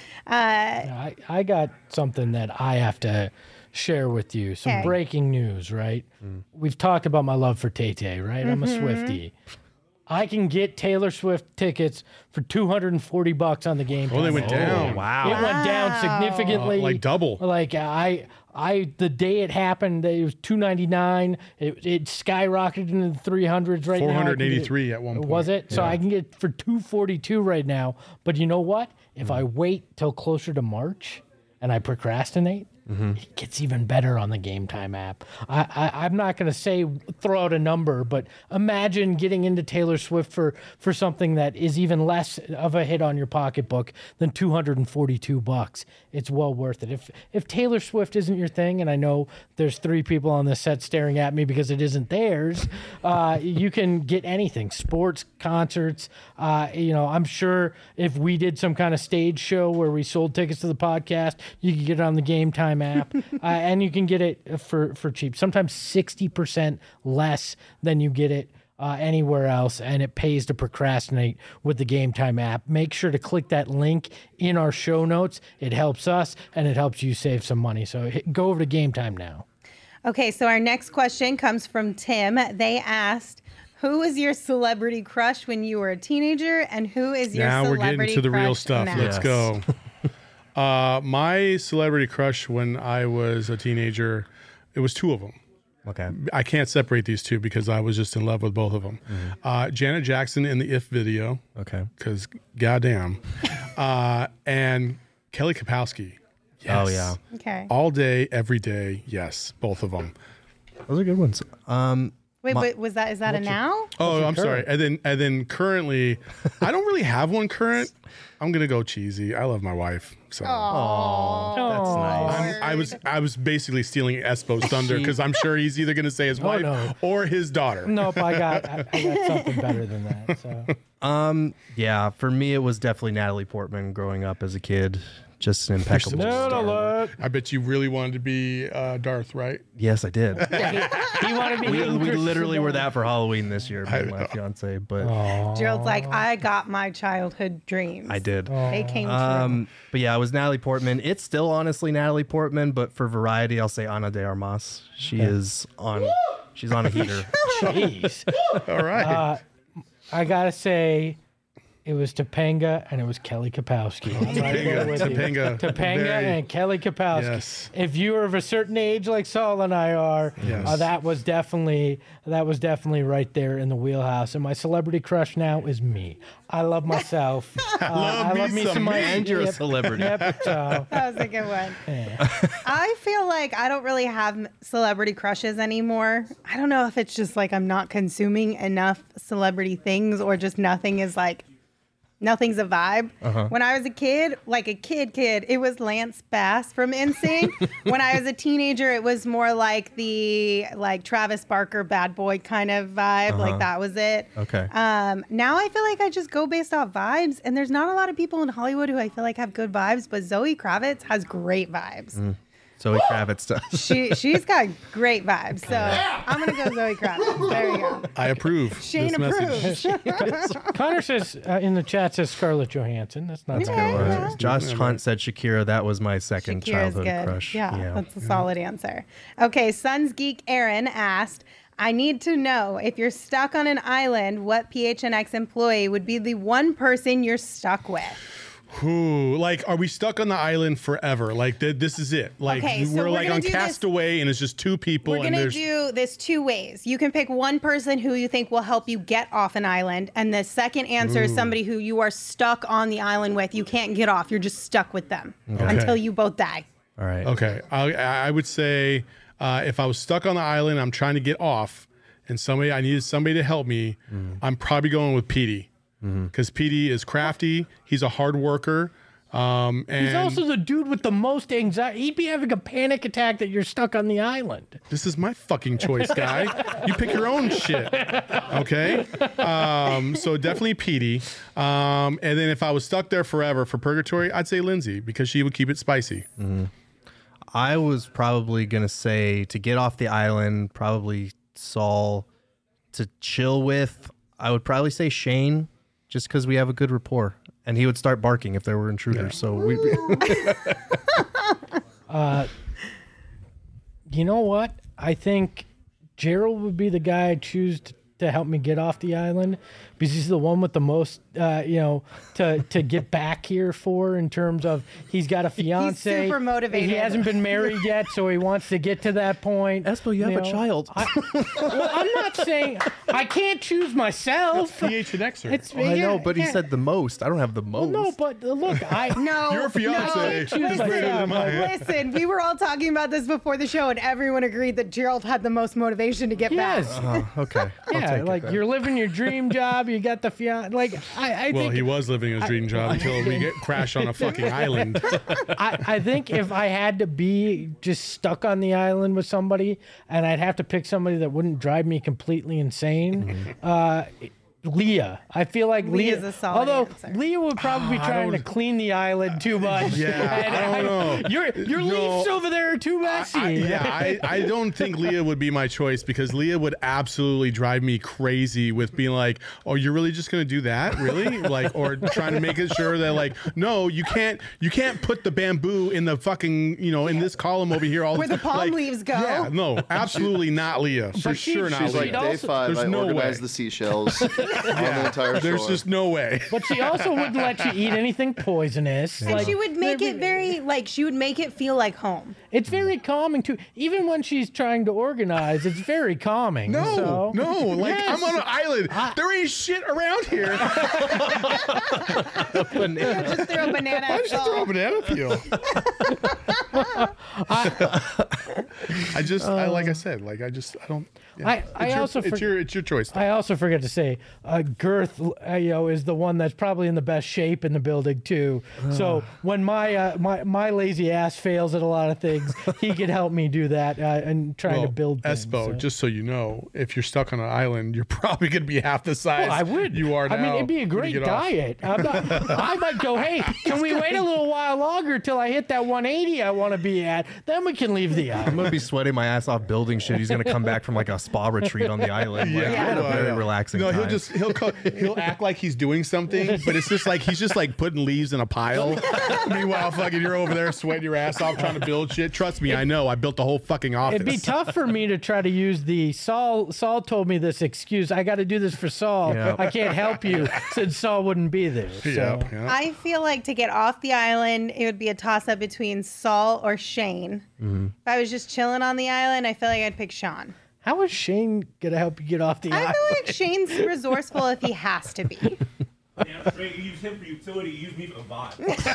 I got something that I have to share with you. Some breaking news, right? We've talked about my love for Tay-Tay, right? I'm a Swiftie. I can get Taylor Swift tickets for $240 on the game. Oh, they went down. Wow. It went down significantly. Like double. Like I the day it happened, it was $299. It skyrocketed into the 300s right now. 483 at one point. Was it? So I can get for $242 right now. But you know what? If I wait till closer to March and I procrastinate, it gets even better on the Game Time app. I'm not going to throw out a number, but imagine getting into Taylor Swift for something that is even less of a hit on your pocketbook than $242. It's well worth it. If Taylor Swift isn't your thing, and I know there's 3 people on this set staring at me because it isn't theirs, you can get anything, sports, concerts. I'm sure if we did some kind of stage show where we sold tickets to the podcast, you could get it on the Game Time app, and you can get it for cheap, sometimes 60% less than you get it anywhere else, and it pays to procrastinate with the Game Time app. Make sure to click that link in our show notes. It helps us, and it helps you save some money. So go over to Game Time now. Okay, so our next question comes from Tim. They asked, who was your celebrity crush when you were a teenager, and who is your Now we're celebrity getting to the real crush stuff. now? Let's Yes. go. My celebrity crush when I was a teenager, it was two of them. Okay. I can't separate these two because I was just in love with both of them. Janet Jackson in the If video, Okay. because goddamn, and Kelly Kapowski. Yes. Oh, yeah. Okay. All day, every day. Yes, both of them. Those are good ones. Wait, but is that a now? Oh, I'm sorry. And then currently, I don't really have one current. I'm gonna go cheesy. I love my wife, so That's nice. I was basically stealing Espo's thunder because I'm sure he's either gonna say his wife no. or his daughter. Nope, I got something better than that. So Yeah, for me, it was definitely Natalie Portman growing up as a kid. Just an impeccable. Nerd alert. I bet you really wanted to be Darth, right? Yes, I did. He wanted me. we to literally were that for Halloween this year, me and my fiance. But Gerald's like, I got my childhood dreams. I did. They came true. But yeah, it was Natalie Portman. It's still honestly Natalie Portman, but for variety, I'll say Ana de Armas. She is on. She's on a heater. Jeez. All right. I gotta say, it was Topanga and it was Kelly Kapowski. I'm right there with you. Topanga. Topanga and Kelly Kapowski. Yes. If you are of a certain age like Saul and I are, Yes. that was definitely right there in the wheelhouse. And my celebrity crush now is me. I love myself. I love me some me. And you're a celebrity. Yep. So, That was a good one. I feel like I don't really have celebrity crushes anymore. I don't know if it's just like I'm not consuming enough celebrity things or just nothing's a vibe. When I was a kid, like a kid, it was Lance Bass from NSYNC. When I was a teenager, it was more like the Travis Barker bad boy kind of vibe. Like that was it. Okay. Now I feel like I just go based off vibes, and there's not a lot of people in Hollywood who I feel like have good vibes, but Zoe Kravitz has great vibes. Zoe Kravitz does. She's got great vibes. So I'm gonna go Zoe Kravitz. There you go. I approve. Shane this message. approves. Connor says in the chat says Scarlett Johansson. That's not bad. Yeah. Josh Hunt said Shakira. That was my second Shakira's childhood good. crush. Yeah, that's a solid answer. Okay, Suns Geek Aaron asked, I need to know if you're stuck on an island, what PHNX employee would be the one person you're stuck with? Ooh, like, are we stuck on the island forever? Like, this is it. Like, Okay, so we're we're like gonna on do this- Castaway, and it's just two people. We're and going to there's do this two ways. You can pick one person who you think will help you get off an island, and the second answer is somebody who you are stuck on the island with. You can't get off. You're just stuck with them until you both die. All right. Okay, I would say if I was stuck on the island, I'm trying to get off, and I needed somebody to help me. I'm probably going with Petey because Petey is crafty. He's a hard worker. And He's also the dude with the most anxiety. He'd be having a panic attack that you're stuck on the island. this is my fucking choice, guy. You pick your own shit. Okay. So definitely Petey. And then if I was stuck there forever for purgatory, I'd say Lindsay because she would keep it spicy. I was probably going to say to get off the island, probably Saul. To chill with, I would probably say Shane, just because we have a good rapport. And he would start barking if there were intruders. So we. You know what? I think Gerald would be the guy I'd choose to help me get off the island because he's the one with the most, to get back here for in terms of he's got a fiance. super motivated. He hasn't been married yet, so he wants to get to that point. Espo, you have a child. Well, I'm not saying I can't choose myself. PHNXer. It's, I know, yeah, but he yeah. said the most. I don't have the most. No, but look, No. Your fiance No. is greater than mine. Listen, we were all talking about this before the show, and everyone agreed that Gerald had the most motivation to get yes. back. Okay. I'll Yeah, take like it. you're living your dream job. You got the fiance. Like I Well, think he was living his dream job until we get crashed on a fucking island. I think if I had to be just stuck on the island with somebody, and I'd have to pick somebody that wouldn't drive me completely insane, Leah. I feel like Leah's Leah. a solid Although answer. Leah would probably be trying to clean the island too much. Yeah, And I don't know. Your No. leaves over there are too messy. I don't think Leah would be my choice because Leah would absolutely drive me crazy with being like, "Oh, you're really just gonna do that, really?" Like, or trying to make it sure that like, no, you can't put the bamboo in the fucking in this column over here. Where the palm leaves go. Yeah, no, absolutely not Leah. For sure not She's like, Leah. day also- 5, there's I no organized way. the seashells on the entire shore. There's just no way. But she also wouldn't let you eat anything poisonous. And she would make it very, like, she would make it feel like home. It's very calming too. Even when she's trying to organize, it's very calming. No, so. no, like Yes. I'm on an island. There ain't shit around here. Just throw a banana Why at did you throw a Saul. banana peel? Like I said, like I don't. Yeah. I also it's your choice. I also forget to say, Girth, is the one that's probably in the best shape in the building too. So when my lazy ass fails at a lot of things, he can help me do that and trying to build things. Espo, so. just so you know, if you're stuck on an island, you're probably going to be half the size I would. you are now. I mean, it'd be a when great you get off. diet. I might go, hey, can we wait a little while longer till I hit that 180 I want to be at? Then we can leave the I'm island. gonna be sweating my ass off building shit. He's gonna come back from like a spa retreat on the island. Like, Yeah, we had a I very know. relaxing No, time. he'll act like he's doing something, but it's just like he's just like putting leaves in a pile. Meanwhile, fucking you're over there sweating your ass off trying to build shit. Trust me, I know. I built the whole fucking office. It'd be tough for me to try to use the Saul told me this excuse. I got to do this for Saul. Yeah. I can't help you since Saul wouldn't be there. So. Yeah. I feel like to get off the island, it would be a toss up between Saul or Shane. If I was just chilling on the island, I feel like I'd pick Sean. How is Shane gonna help you get off the I island? feel like Shane's resourceful if he has to be. Damn straight, you use him for utility, you use me for the vibe.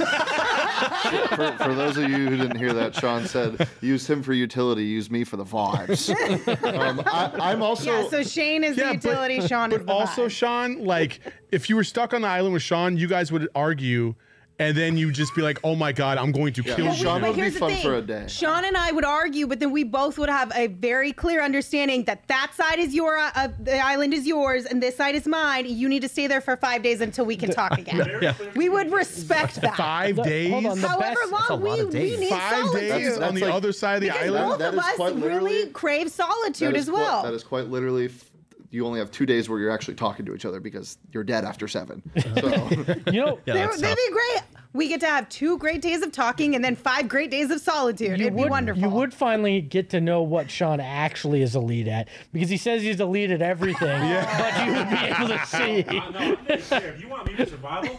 For those of you who didn't hear that, Sean said, use him for utility, use me for the vibes. I'm also... Yeah, so Shane is the utility, Sean is But the also, vibe. Sean, like if you were stuck on the island with Sean, you guys would argue, and then you'd just be like, "Oh my god, I'm going to kill you." Sean But would be here's the fun thing. for a day. Sean and I would argue, but then we both would have a very clear understanding that that side is the island is yours, and this side is mine. You need to stay there for 5 days until we can talk again. We would respect that. 5 days. Hold on, the However best- long lot of we days. need 5 solitude. days on the like- other side of the Because island. both That of is us quite literally- really crave solitude That as is well. That is quite literally... You only have 2 days where you're actually talking to each other because you're dead after 7. So You know, That'd be great. We get to have 2 great days of talking and then 5 great days of solitude. It'd be wonderful. You would finally get to know what Sean actually is elite at because he says he's elite at everything, but you would be able to see. No, I'm just here. If you want me for survival,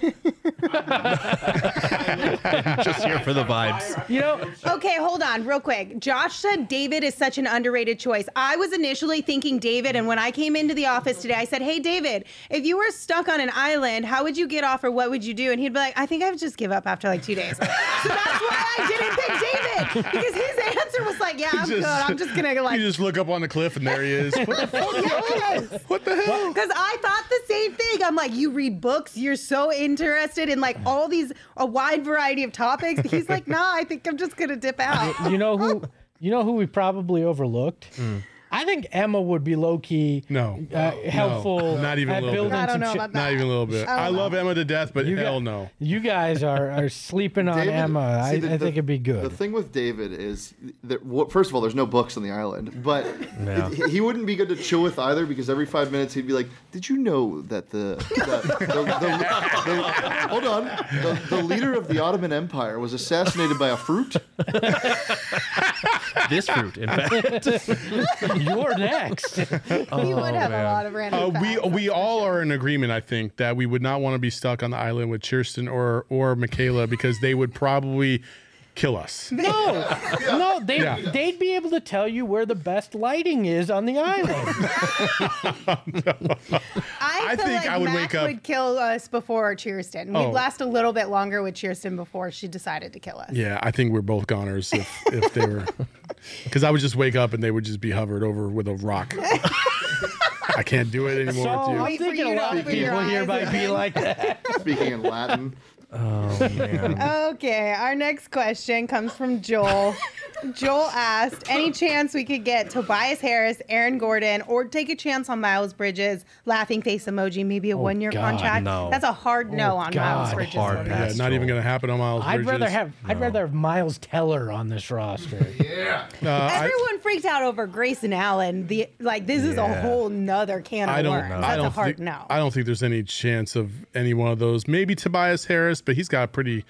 just here for the vibes. You know, Okay, hold on, real quick. Josh said David is such an underrated choice. I was initially thinking David, and when I came into the office today, I said, "Hey, David, if you were stuck on an island, how would you get off, or what would you do?" And he'd be like, "I think I would just give up after like 2 days." So that's why I didn't pick David because his answer was like, "Yeah, I'm good. I'm just gonna like." You just look up on the cliff and there he is. What the fuck? Yes. What the hell? Because I thought the same thing. I'm like, you read books, you're so interested in like all these, a wide variety of topics. He's like, nah, I think I'm just gonna dip out. you know who we probably overlooked. I think Emma would be low key helpful. No, not even a at little building bit. I don't some know shit. about that. Not even a little bit. I love Emma to death, but hell no. You guys are sleeping on David- Emma. see, I think it'd be The good. thing with David is that, first of all, there's no books on the island, but he wouldn't be good to chill with either because every 5 minutes he'd be like, "Did you know that hold on, the leader of the Ottoman Empire was assassinated by a fruit?" This fruit, in fact. You're next. We would have a lot of random facts. We all are in agreement, I think, that we would not want to be stuck on the island with Kirsten or Michaela because they would probably kill us. No, they'd be able to tell you where the best lighting is on the island. I feel think like I would Mac wake up- would kill us before Cheerston. We'd last a little bit longer with Cheerston before she decided to kill us. Yeah, I think we're both goners if they were, because I would just wake up and they would just be hovered over with a rock. I can't do it anymore So with I'm Wait for thinking you a to lot of open your people here eyes might be and- like that. Speaking in Latin. Oh man. Okay, our next question comes from Joel. Joel asked, any chance we could get Tobias Harris, Aaron Gordon, or take a chance on Miles Bridges? Laughing face emoji, maybe a one-year God, contract. no. That's a hard no on Miles God, Bridges. hard Yeah, pass. not even going to happen on Miles I'd Bridges. rather have Miles Teller on this roster. Everyone freaked out over Grayson Allen. This is a whole nother can of worms. That's a hard no. I don't think there's any chance of any one of those. Maybe Tobias Harris, but he's got pretty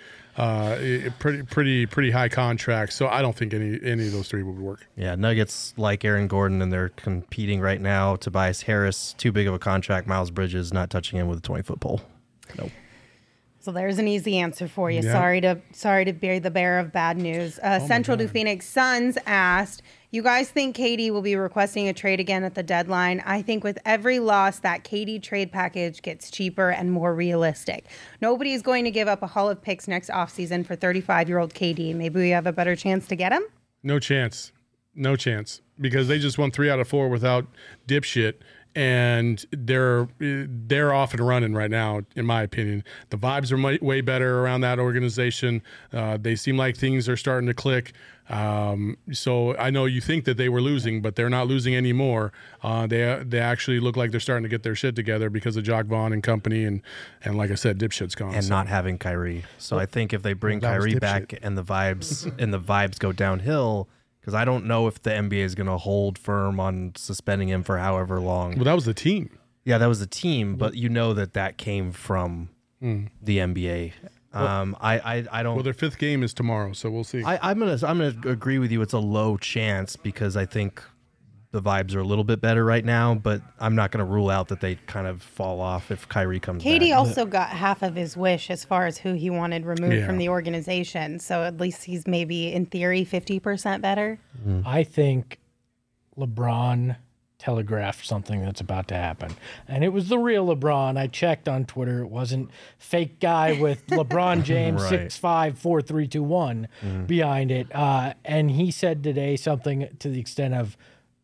high contract. So I don't think any of those three would work. Yeah, Nuggets like Aaron Gordon, and they're competing right now. Tobias Harris, too big of a contract. Miles Bridges, not touching him with a 20-foot pole. Nope. So there's an easy answer for you. Yeah. Sorry to bear the bearer of bad news. Central to Phoenix Suns asked, you guys think KD will be requesting a trade again at the deadline? I think with every loss, that KD trade package gets cheaper and more realistic. Nobody is going to give up a haul of picks next offseason for 35-year-old KD. Maybe we have a better chance to get him? No chance. No chance. Because they just won 3 out of 4 without dipshit. And they're off and running right now, in my opinion. The vibes are way better around that organization. They seem like things are starting to click. So I know you think that they were losing, but they're not losing anymore. They actually look like they're starting to get their shit together because of Jock Vaughn and company. And like I said, dipshit's gone. And not having Kyrie. So I think if they bring Well, that was Kyrie dipshit. back and the vibes go downhill, because I don't know if the NBA is going to hold firm on suspending him for however long. Well, that was the team. Yeah, that was the team, but you know that came from the NBA. I don't. Well, their 5th game is tomorrow, so we'll see. I'm gonna agree with you. It's a low chance because I think the vibes are a little bit better right now, but I'm not gonna rule out that they kind of fall off if Kyrie comes KD back. also got half of his wish as far as who he wanted removed Yeah. from the organization. So at least he's maybe, in theory, 50% better. I think LeBron telegraphed something that's about to happen. And it was the real LeBron. I checked on Twitter. It wasn't fake guy with LeBron James Right. 6'5", 4 3 2 1 behind it. And he said today something to the extent of,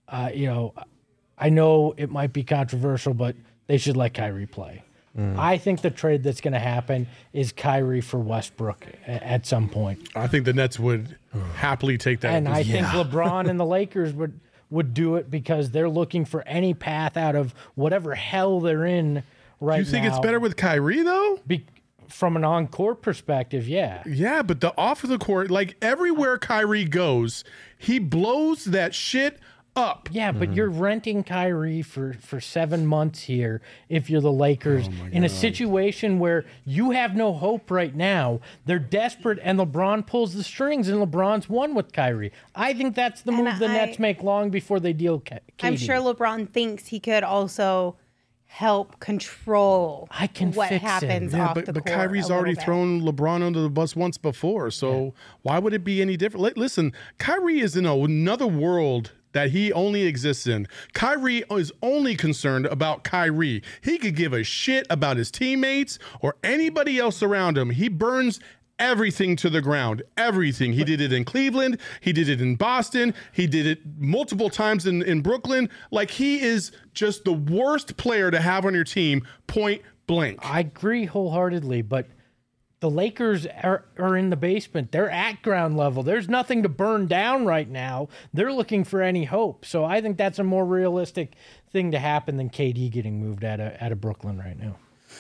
I know it might be controversial, but they should let Kyrie play. I think the trade that's going to happen is Kyrie for Westbrook at some point. I think the Nets would happily take that. And I think LeBron and the Lakers would do it because they're looking for any path out of whatever hell they're in right now. You think it's better with Kyrie, though? From an on-court perspective, yeah. Yeah, but the off of the court, like everywhere Kyrie goes, he blows that shit up. Yeah, but you're renting Kyrie for 7 months here if you're the Lakers in a situation where you have no hope right now. They're desperate, and LeBron pulls the strings, and LeBron's won with Kyrie. I think that's the move the Nets make long before they deal KD. I'm sure LeBron thinks he could also help control what fix happens him. Yeah, off the but court. Kyrie's a already little bit. thrown LeBron under the bus once before, so why would it be any different? Listen, Kyrie is in another world that he only exists in. Kyrie is only concerned about Kyrie. He could give a shit about his teammates or anybody else around him. He burns everything to the ground. Everything. He did it in Cleveland. He did it in Boston. He did it multiple times in Brooklyn. Like, he is just the worst player to have on your team, point blank. I agree wholeheartedly, but the Lakers are in the basement. They're at ground level. There's nothing to burn down right now. They're looking for any hope. So I think that's a more realistic thing to happen than KD getting moved out of Brooklyn right now.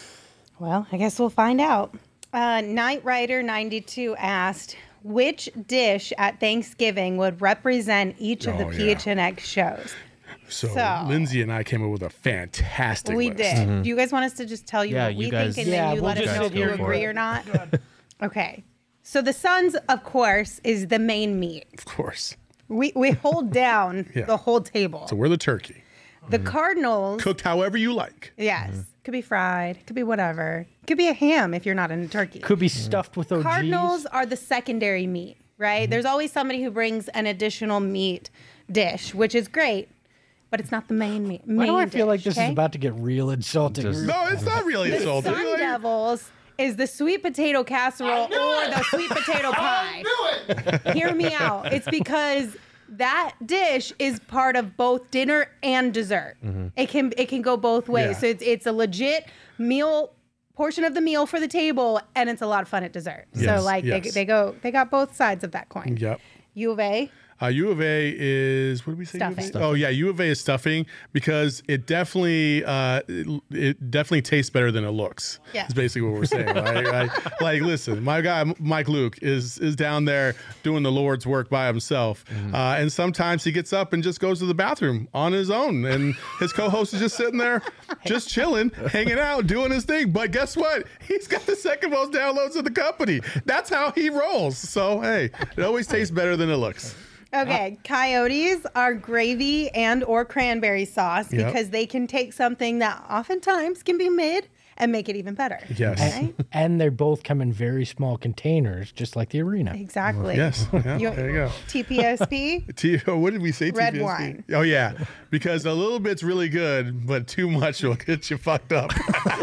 Well, I guess we'll find out. Night Rider 92 asked, which dish at Thanksgiving would represent each of the PHNX shows? So So- Lindsay and I came up with a fantastic We list. did. Do you guys want us to just tell you Yeah, what you we guys- think, and Yeah, then you we'll let us just know sit if you here for agree it. or not? Okay. So the Suns, of course, is the main meat. Of course. We hold down Yeah. the whole table. So we're the turkey. The Cardinals, Cooked however you like. yes, could be fried, could be whatever. Could be a ham if you're not into turkey. Could be stuffed with OGs. Cardinals are the secondary meat, right? There's always somebody who brings an additional meat dish, which is great, but it's not the main meat. Why do I feel like dish, this is okay? about to get real insulting? No, it's not really insulting. Sun Like, Devils is the sweet potato casserole or the sweet potato pie. Hear me out. It's because that dish is part of both dinner and dessert. It can go both ways. Yeah. So it's a legit meal portion of the meal for the table, and it's a lot of fun at dessert. Yes, So like yes. they got both sides of that coin. Yep. U of A. U of A is, what did we say? Stuffing. U of A? Oh yeah, U of A is stuffing because it definitely tastes better than it looks. Yeah. That's basically what we're saying. Right? Like, listen, my guy Mike Luke is down there doing the Lord's work by himself, and sometimes he gets up and just goes to the bathroom on his own, and his co-host is just sitting there, just chilling, hanging out, doing his thing. But guess what? He's got the second most downloads of the company. That's how he rolls. So hey, it always tastes better than it looks. Okay, coyotes are gravy and or cranberry sauce Yep. because they can take something that oftentimes can be mid and make it even better. Yes. Right? And they both come in very small containers, just like the arena. Exactly. Yes. Yeah, You- there you go. TPSP. What did we say? Red TPSP? wine. Oh yeah, because a little bit's really good, but too much will get you fucked up.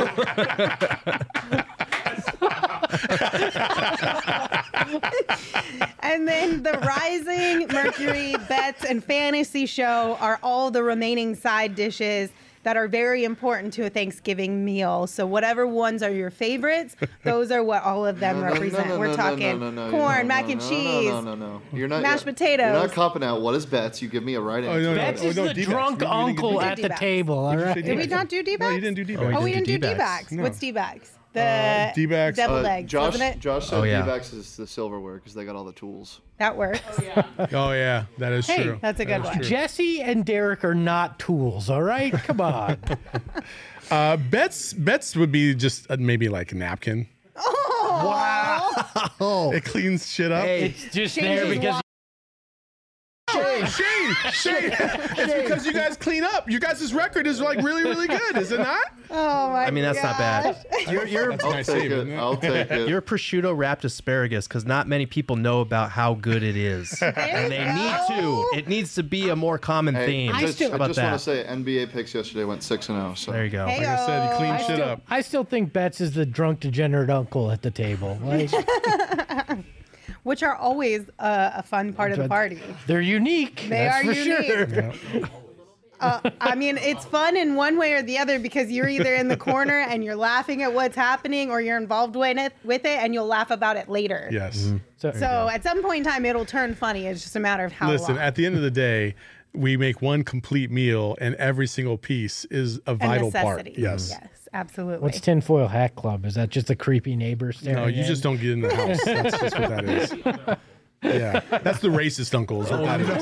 And then the Rising, Mercury, Bets, and Fantasy Show are all the remaining side dishes that are very important to a Thanksgiving meal. So whatever ones are your favorites, those are what all of them represent. We're talking corn, mac and cheese, No. You're not mashed You're potatoes. not copping out. What is bets? You give me a right answer. no, That's no, just no, the D-backs. drunk We didn't uncle do at the D-backs. table, all right? Did we not do D-backs? No, you didn't do D-backs. Oh, we didn't do D-backs. D-backs. No. What's D-backs? The D-backs. deviled eggs, Josh, wasn't it? Josh said Oh, yeah. D-backs is the silverware because they got all the tools. That works. Oh yeah, that is Hey, true. that's a good one. Jesse and Derek are not tools, all right? Come on. Bets would be just maybe like a napkin. Oh, It cleans shit up. It's just Changes there because wa- Shane, it's because you guys clean up. You guys' record is like really, really good, is it not? oh my! I mean, that's not bad. You're That's a I'll nice take save, it. isn't it? I'll take it. you're prosciutto wrapped asparagus because not many people know about how good it is, and they need to. It needs to be a more common Hey, theme. I just, How about want to that? say NBA picks yesterday went 6-0. So There you go. Hey, Like I said, you clean I shit up. I still think Betts is the drunk degenerate uncle at the table. Like, Which are always a fun part of the party. they're unique. They that's are for unique. sure. I mean, it's fun in one way or the other because you're either in the corner and you're laughing at what's happening, or you're involved with it, and you'll laugh about it later. Yes. So at some point in time, it'll turn funny. It's just a matter of how Listen, long. at the end of the day, we make one complete meal, and every single piece is a vital part. necessity. Yes. Yes, absolutely. What's Tinfoil Hat Club? Is that just a creepy neighbor staring? No, you in? just don't get in the house. That's just what that is. Yeah, that's the racist uncle. Is what that is.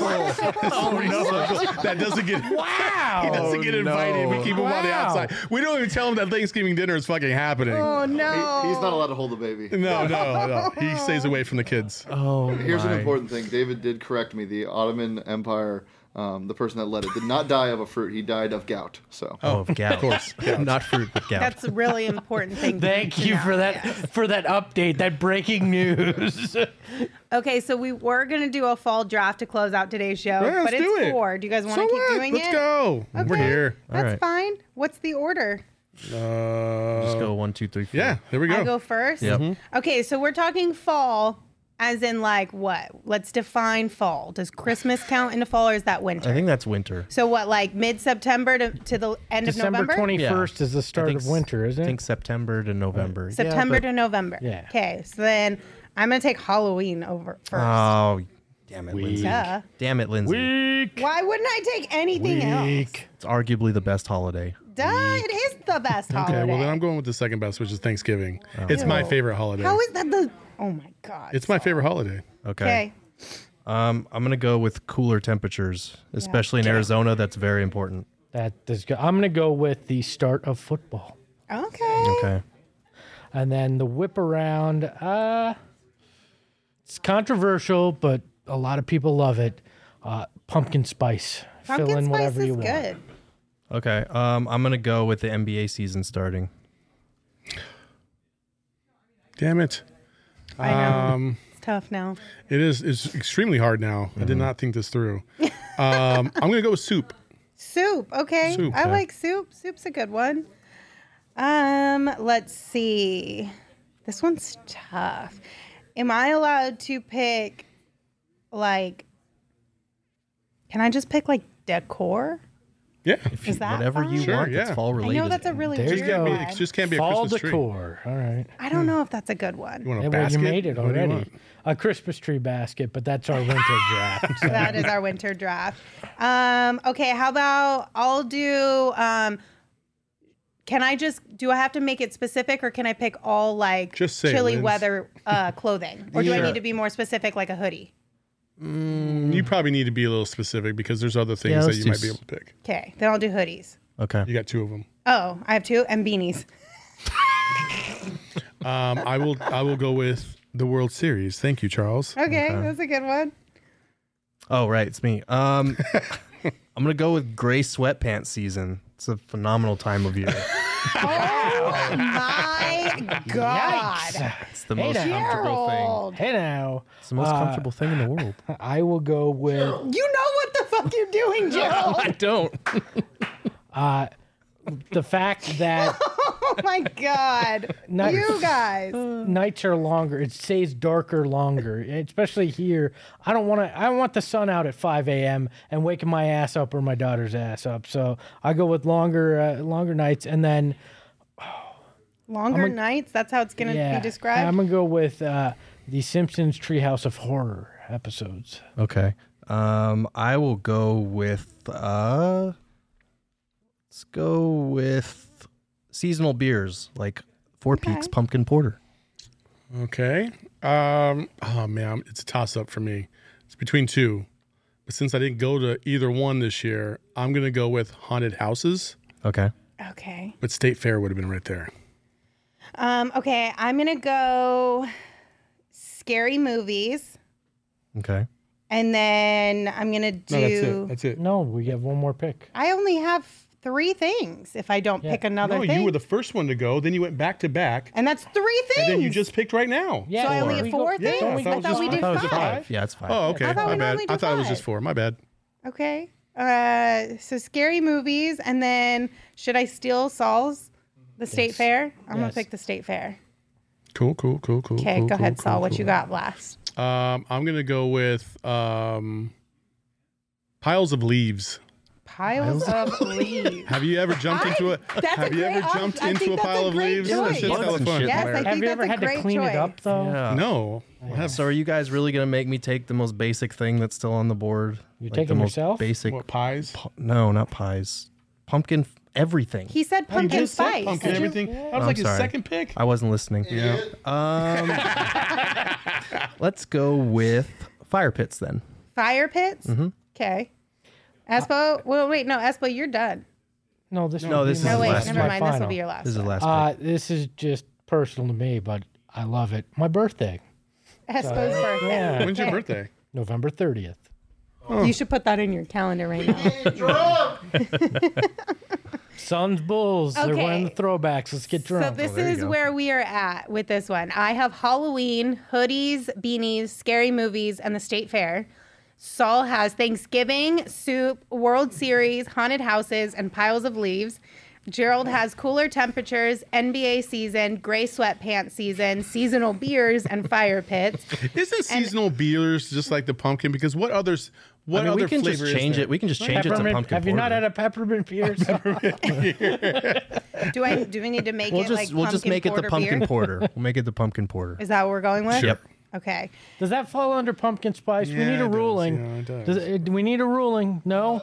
That doesn't get. Wow. He doesn't get invited. We keep him on the Wow. outside. We don't even tell him that Thanksgiving dinner is fucking happening. Oh no! he's not allowed to hold the baby. No. He stays away from the kids. Oh, Here's an my. important thing. David did correct me. The Ottoman Empire, the person that led it, did not die of a fruit. He died of gout. So Oh, of gout. Of course. Not fruit, but gout. That's a really important thing. Thank to you know. for that update, that breaking news. Okay, so we were gonna do a fall draft to close out today's show, Yeah, but let's it's do it. 4. Do you guys want So to keep what? doing Let's it? go. We're Okay. here. That's right. fine. What's the order? Just go 1, 2, 3, 4. Yeah, there we I go. go first. Yep. Okay, so we're talking fall, as in like what? Let's define fall. Does Christmas count into fall, or is that winter? I think that's winter. So what, like mid-September to the end December of November? 21st is the start of winter, isn't I it? think September to November. September to November. Yeah. Okay, so then I'm gonna take Halloween over first. Oh, damn it, Lindsay. Duh. Damn it, Lindsay. Week. Why wouldn't I take anything else? It's arguably the best holiday. Duh, it is the best holiday. Okay, well then I'm going with the second best, which is Thanksgiving. It's my favorite holiday. How is that the? Oh my god. It's my favorite holiday. Okay. Okay. I'm gonna go with cooler temperatures, especially in Arizona. That's very important. I'm going to go with the start of football. Okay. Okay. And then the whip around, it's controversial, but a lot of people love it. Pumpkin spice. Fill Pumpkin in spice whatever is you want. good. Okay. I'm gonna go with the NBA season starting. Damn it. I know. It's tough now. It is. It's extremely hard now. I did not think this through. I'm gonna go with soup. Soup. Okay. Soup, I yeah. like soup. Soup's a good one. Let's see. This one's tough. Am I allowed to pick like can I just pick like decor? Yeah. Is that Whatever you fine? Sure, want that's yeah. fall I related. know that's a really There you weird go. one. It just can't be a Fall Christmas tree. decor. All right. I don't know if that's a good one. You want a Well, basket? you made it What do you already. want? A Christmas tree basket, but that's our winter draft. So. That is our winter draft. Okay, how about I'll do. Can I have to make it specific, or can I pick all like Just say it, chilly Linz. weather clothing, or do I Sure. need to be more specific, like a hoodie? You probably need to be a little specific because there's other things that let's you do might be able to pick. Okay, then I'll do hoodies. Okay. You got 2 of them. Oh, I have 2 and beanies. I will go with the World Series. Thank you, Charles. Okay, that's a good one. Oh, right. It's me. I'm going to go with gray sweatpants season. It's a phenomenal time of year. Oh my God, It's the most comfortable thing. Gerald! Hey now, It's the most comfortable thing in the world. I will go with You know what the fuck you're doing, Gerald? I don't. the fact that Oh my God, Nice. you guys. nights are longer. It stays darker longer, especially here. I don't want the sun out at 5 a.m. and waking my ass up or my daughter's ass up. So I go with longer nights, and then Longer nights. That's how it's gonna be described. I'm gonna go with the Simpsons Treehouse of Horror episodes. Okay. I will go with let's go with seasonal beers like Four Peaks Pumpkin Porter. Okay. Oh man, it's a toss up for me. It's between 2, but since I didn't go to either one this year, I'm gonna go with haunted houses. Okay. Okay. But State Fair would have been right there. Okay, I'm gonna go scary movies, Okay. and then I'm gonna do. No, that's it. No, we have one more pick. I only have 3 things. If I don't pick another No, thing, you were the first one to go. Then you went back to back, and that's 3 things. and then you just picked right now. Yeah, So I only have we 4 go- things. Yeah, I thought we did I thought it was 5. Yeah, it's 5. Oh, okay. I thought My we bad. only I did thought it was 5. just 4. My bad. Okay. So scary movies, and then should I steal Saul's? The State Fair. I'm gonna Yes. pick the State Fair. Cool. Okay, go ahead, Saul. What you got last? I'm gonna go with piles of leaves. Piles of leaves. Have you ever jumped into a? That's Have a you ever great jumped I into think a that's pile of great leaves? choice. That shit's hella fun. Yes, I Have think you ever that's a had to great clean choice. it up though? Yeah. No. So are you guys really going to make me take the most basic thing that's still on the board? You Like take the them most yourself? basic. What pies? No, not pies. Pumpkin everything. He said You pumpkin just said spice. pumpkin Did you- everything. That was I'm like his sorry. second pick. I wasn't listening. Yeah. Let's go with fire pits then. Fire pits. Okay. Espo. Well, wait. No, Espo, you're done. No, this No, this will be is No, my- wait. last Never my mind. This will final. be your last. This is the one. last pick. This is just personal to me, but I love it. My birthday, Espo's birthday. yeah, When's your birthday? November 30th. You should put that in your calendar right now. Suns, Bulls. They're Okay. wearing the throwbacks. Let's get So drunk. this there you is go. where we are at with this one. I have Halloween, hoodies, beanies, scary movies, and the State Fair. Saul has Thanksgiving, soup, World Series, haunted houses, and piles of leaves. Gerald has cooler temperatures, NBA season, gray sweatpants season, seasonal beers, and fire pits. Isn't seasonal beers just like the pumpkin? Because what others? What I mean, other we can flavor just is change there? it. We can just change it to Peppermint. pumpkin Have you not porter. had a peppermint beer? Do we need to make We'll it just like we'll just pumpkin make it the porter pumpkin beer? porter. We'll make it the pumpkin porter. Is that what we're going with? Yep. Okay. Does that fall under pumpkin spice? we Yeah, need a it does. ruling. Yeah, it does. Do we need a ruling? No.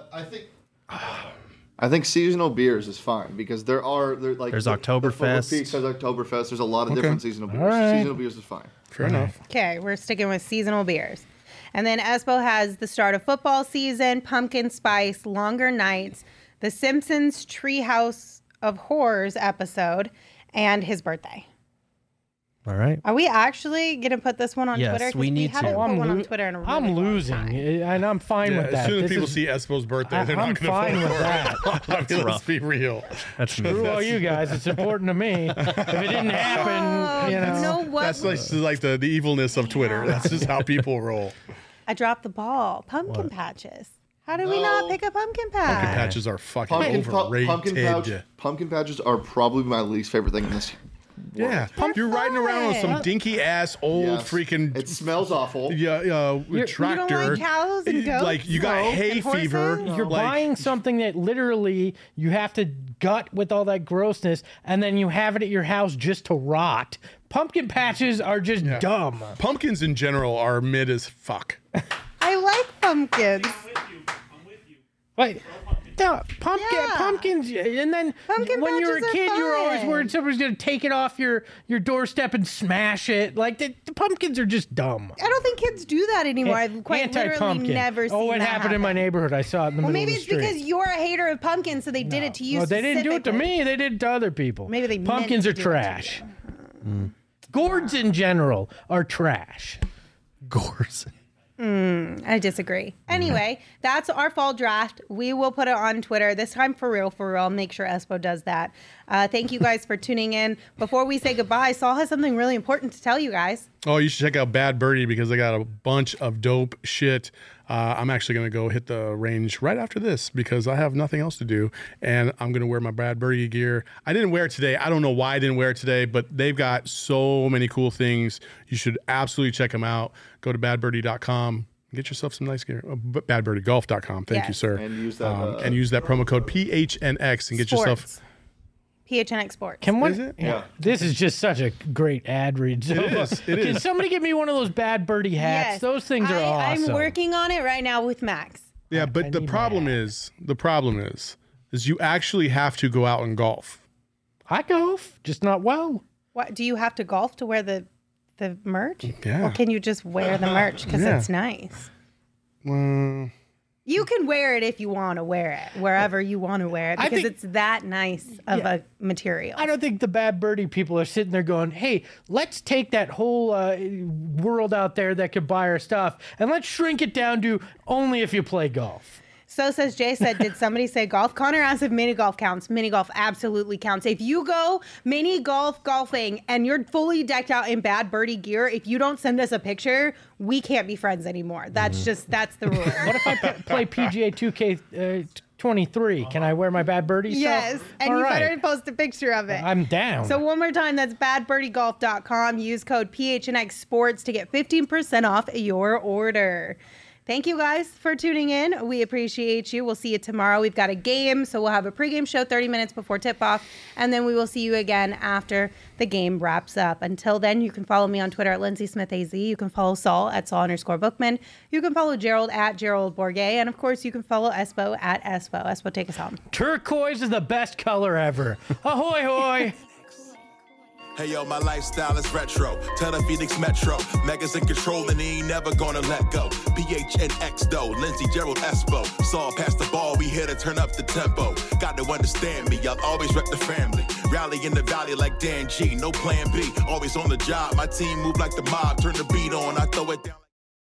I think seasonal beers is fine because there's Oktoberfest. Peaks has Oktoberfest. There's a lot of different seasonal beers. right. Seasonal beers is fine. Fair enough. Okay, we're sticking with seasonal beers. And then Espo has the start of football season, pumpkin spice, longer nights, the Simpsons Treehouse of Horrors episode, and his birthday. All right. Are we actually going to put this one on Yes, Twitter? 'Cause we need haven't to. put I'm one on lo- Twitter in a really I'm long losing, time. and I'm fine Yeah, with as that. soon as This people is- see Espo's birthday, they're I'm not going fine to with vote that. for it. I mean, let's be real. That's me. Screw all you guys. It's important to me. If it didn't happen, you know. You know what? That's like the evilness of Twitter. That's just how people roll. I dropped the ball. Pumpkin patches. How did we not pick a pumpkin patch? Patches are fucking Pumpkin overrated. patches are probably my least favorite thing in this world. You're riding around on some dinky ass old freaking. It smells awful. Tractor. You don't like cows and goats? Like you got hay fever. You're buying something that literally you have to gut with all that grossness, and then you have it at your house just to rot. Pumpkin patches are just dumb. Pumpkins in general are mid as fuck. I like pumpkins. I'm with you. Wait, pumpkins, and then Pumpkin when you were a patches are kid, you were always fun. worried somebody's going to take it off your doorstep and smash it. Like the pumpkins are just dumb. I don't think kids do that anymore. I've quite literally Anti-pumpkin. never seen it that happened in my neighborhood. I saw it in the Well, middle maybe of the it's street. because you're a hater of pumpkins, so they did it to you. No, they didn't do it to specifically. me. They did it to other people. Maybe they meant pumpkins to are do it to you. trash. Gourds in general are trash. Gourds. I disagree. Anyway, that's our fall draft. We will put it on Twitter this time for real. I'll make sure Espo does that. Thank you guys for tuning in. Before we say goodbye, Saul has something really important to tell you guys. Oh, you should check out Bad Birdie because they got a bunch of dope shit. I'm actually going to go hit the range right after this because I have nothing else to do. And I'm going to wear my Bad Birdie gear. I didn't wear it today. I don't know why I didn't wear it today, but they've got so many cool things. You should absolutely check them out. Go to badbirdie.com. Get yourself some nice gear. Badbirdiegolf.com. Thank you, sir. And use that promo code PHNX and get yourself. PHNX Sports. Is it? Yeah. This is just such a great ad read. It is. Can somebody get me one of those Bad Birdie hats? Yes. Those things are awesome. I'm working on it right now with Max. Yeah, but the need problem my is you actually have to go out and golf. I golf, just not well. What do you have to golf to wear the merch? Yeah. Or can you just wear the merch because it's nice? Well, You can wear it if you want to wear it, wherever you want to wear it, I because think- it's that nice of a material. I don't think the Bad Birdie people are sitting there going, hey, let's take that whole world out there that could buy our stuff and let's shrink it down to only if you play golf. So says Jay said, did somebody say golf? Connor asked if mini golf counts. Mini golf absolutely counts. If you go mini golfing and you're fully decked out in Bad Birdie gear, if you don't send us a picture, we can't be friends anymore. That's that's the rule. What if I play PGA 2K 23? Can I wear my Bad Birdie Yes, stuff? and All you right. better post a picture of it. I'm down. So one more time, that's badbirdiegolf.com. Use code PHNX Sports to get 15% off your order. Thank you guys for tuning in. We appreciate you. We'll see you tomorrow. We've got a game, so we'll have a pregame show 30 minutes before tip-off, and then we will see you again after the game wraps up. Until then, you can follow me on Twitter at LindsaySmithAZ. You can follow Saul at Saul_Bookman. You can follow Gerald at Gerald Bourget, and of course, you can follow Espo at Espo. Espo, take us home. Turquoise is the best color ever. Ahoy, hoy. Hey yo, my lifestyle is retro. Tell the Phoenix Metro. Megas in control and he ain't never gonna let go. PHNX though, Lindsay, Gerald, Espo. Saw past the ball, we here to turn up the tempo. Got to understand me, I'll always rep the family. Rally in the valley like Dan G, no plan B. Always on the job, my team move like the mob. Turn the beat on, I throw it down.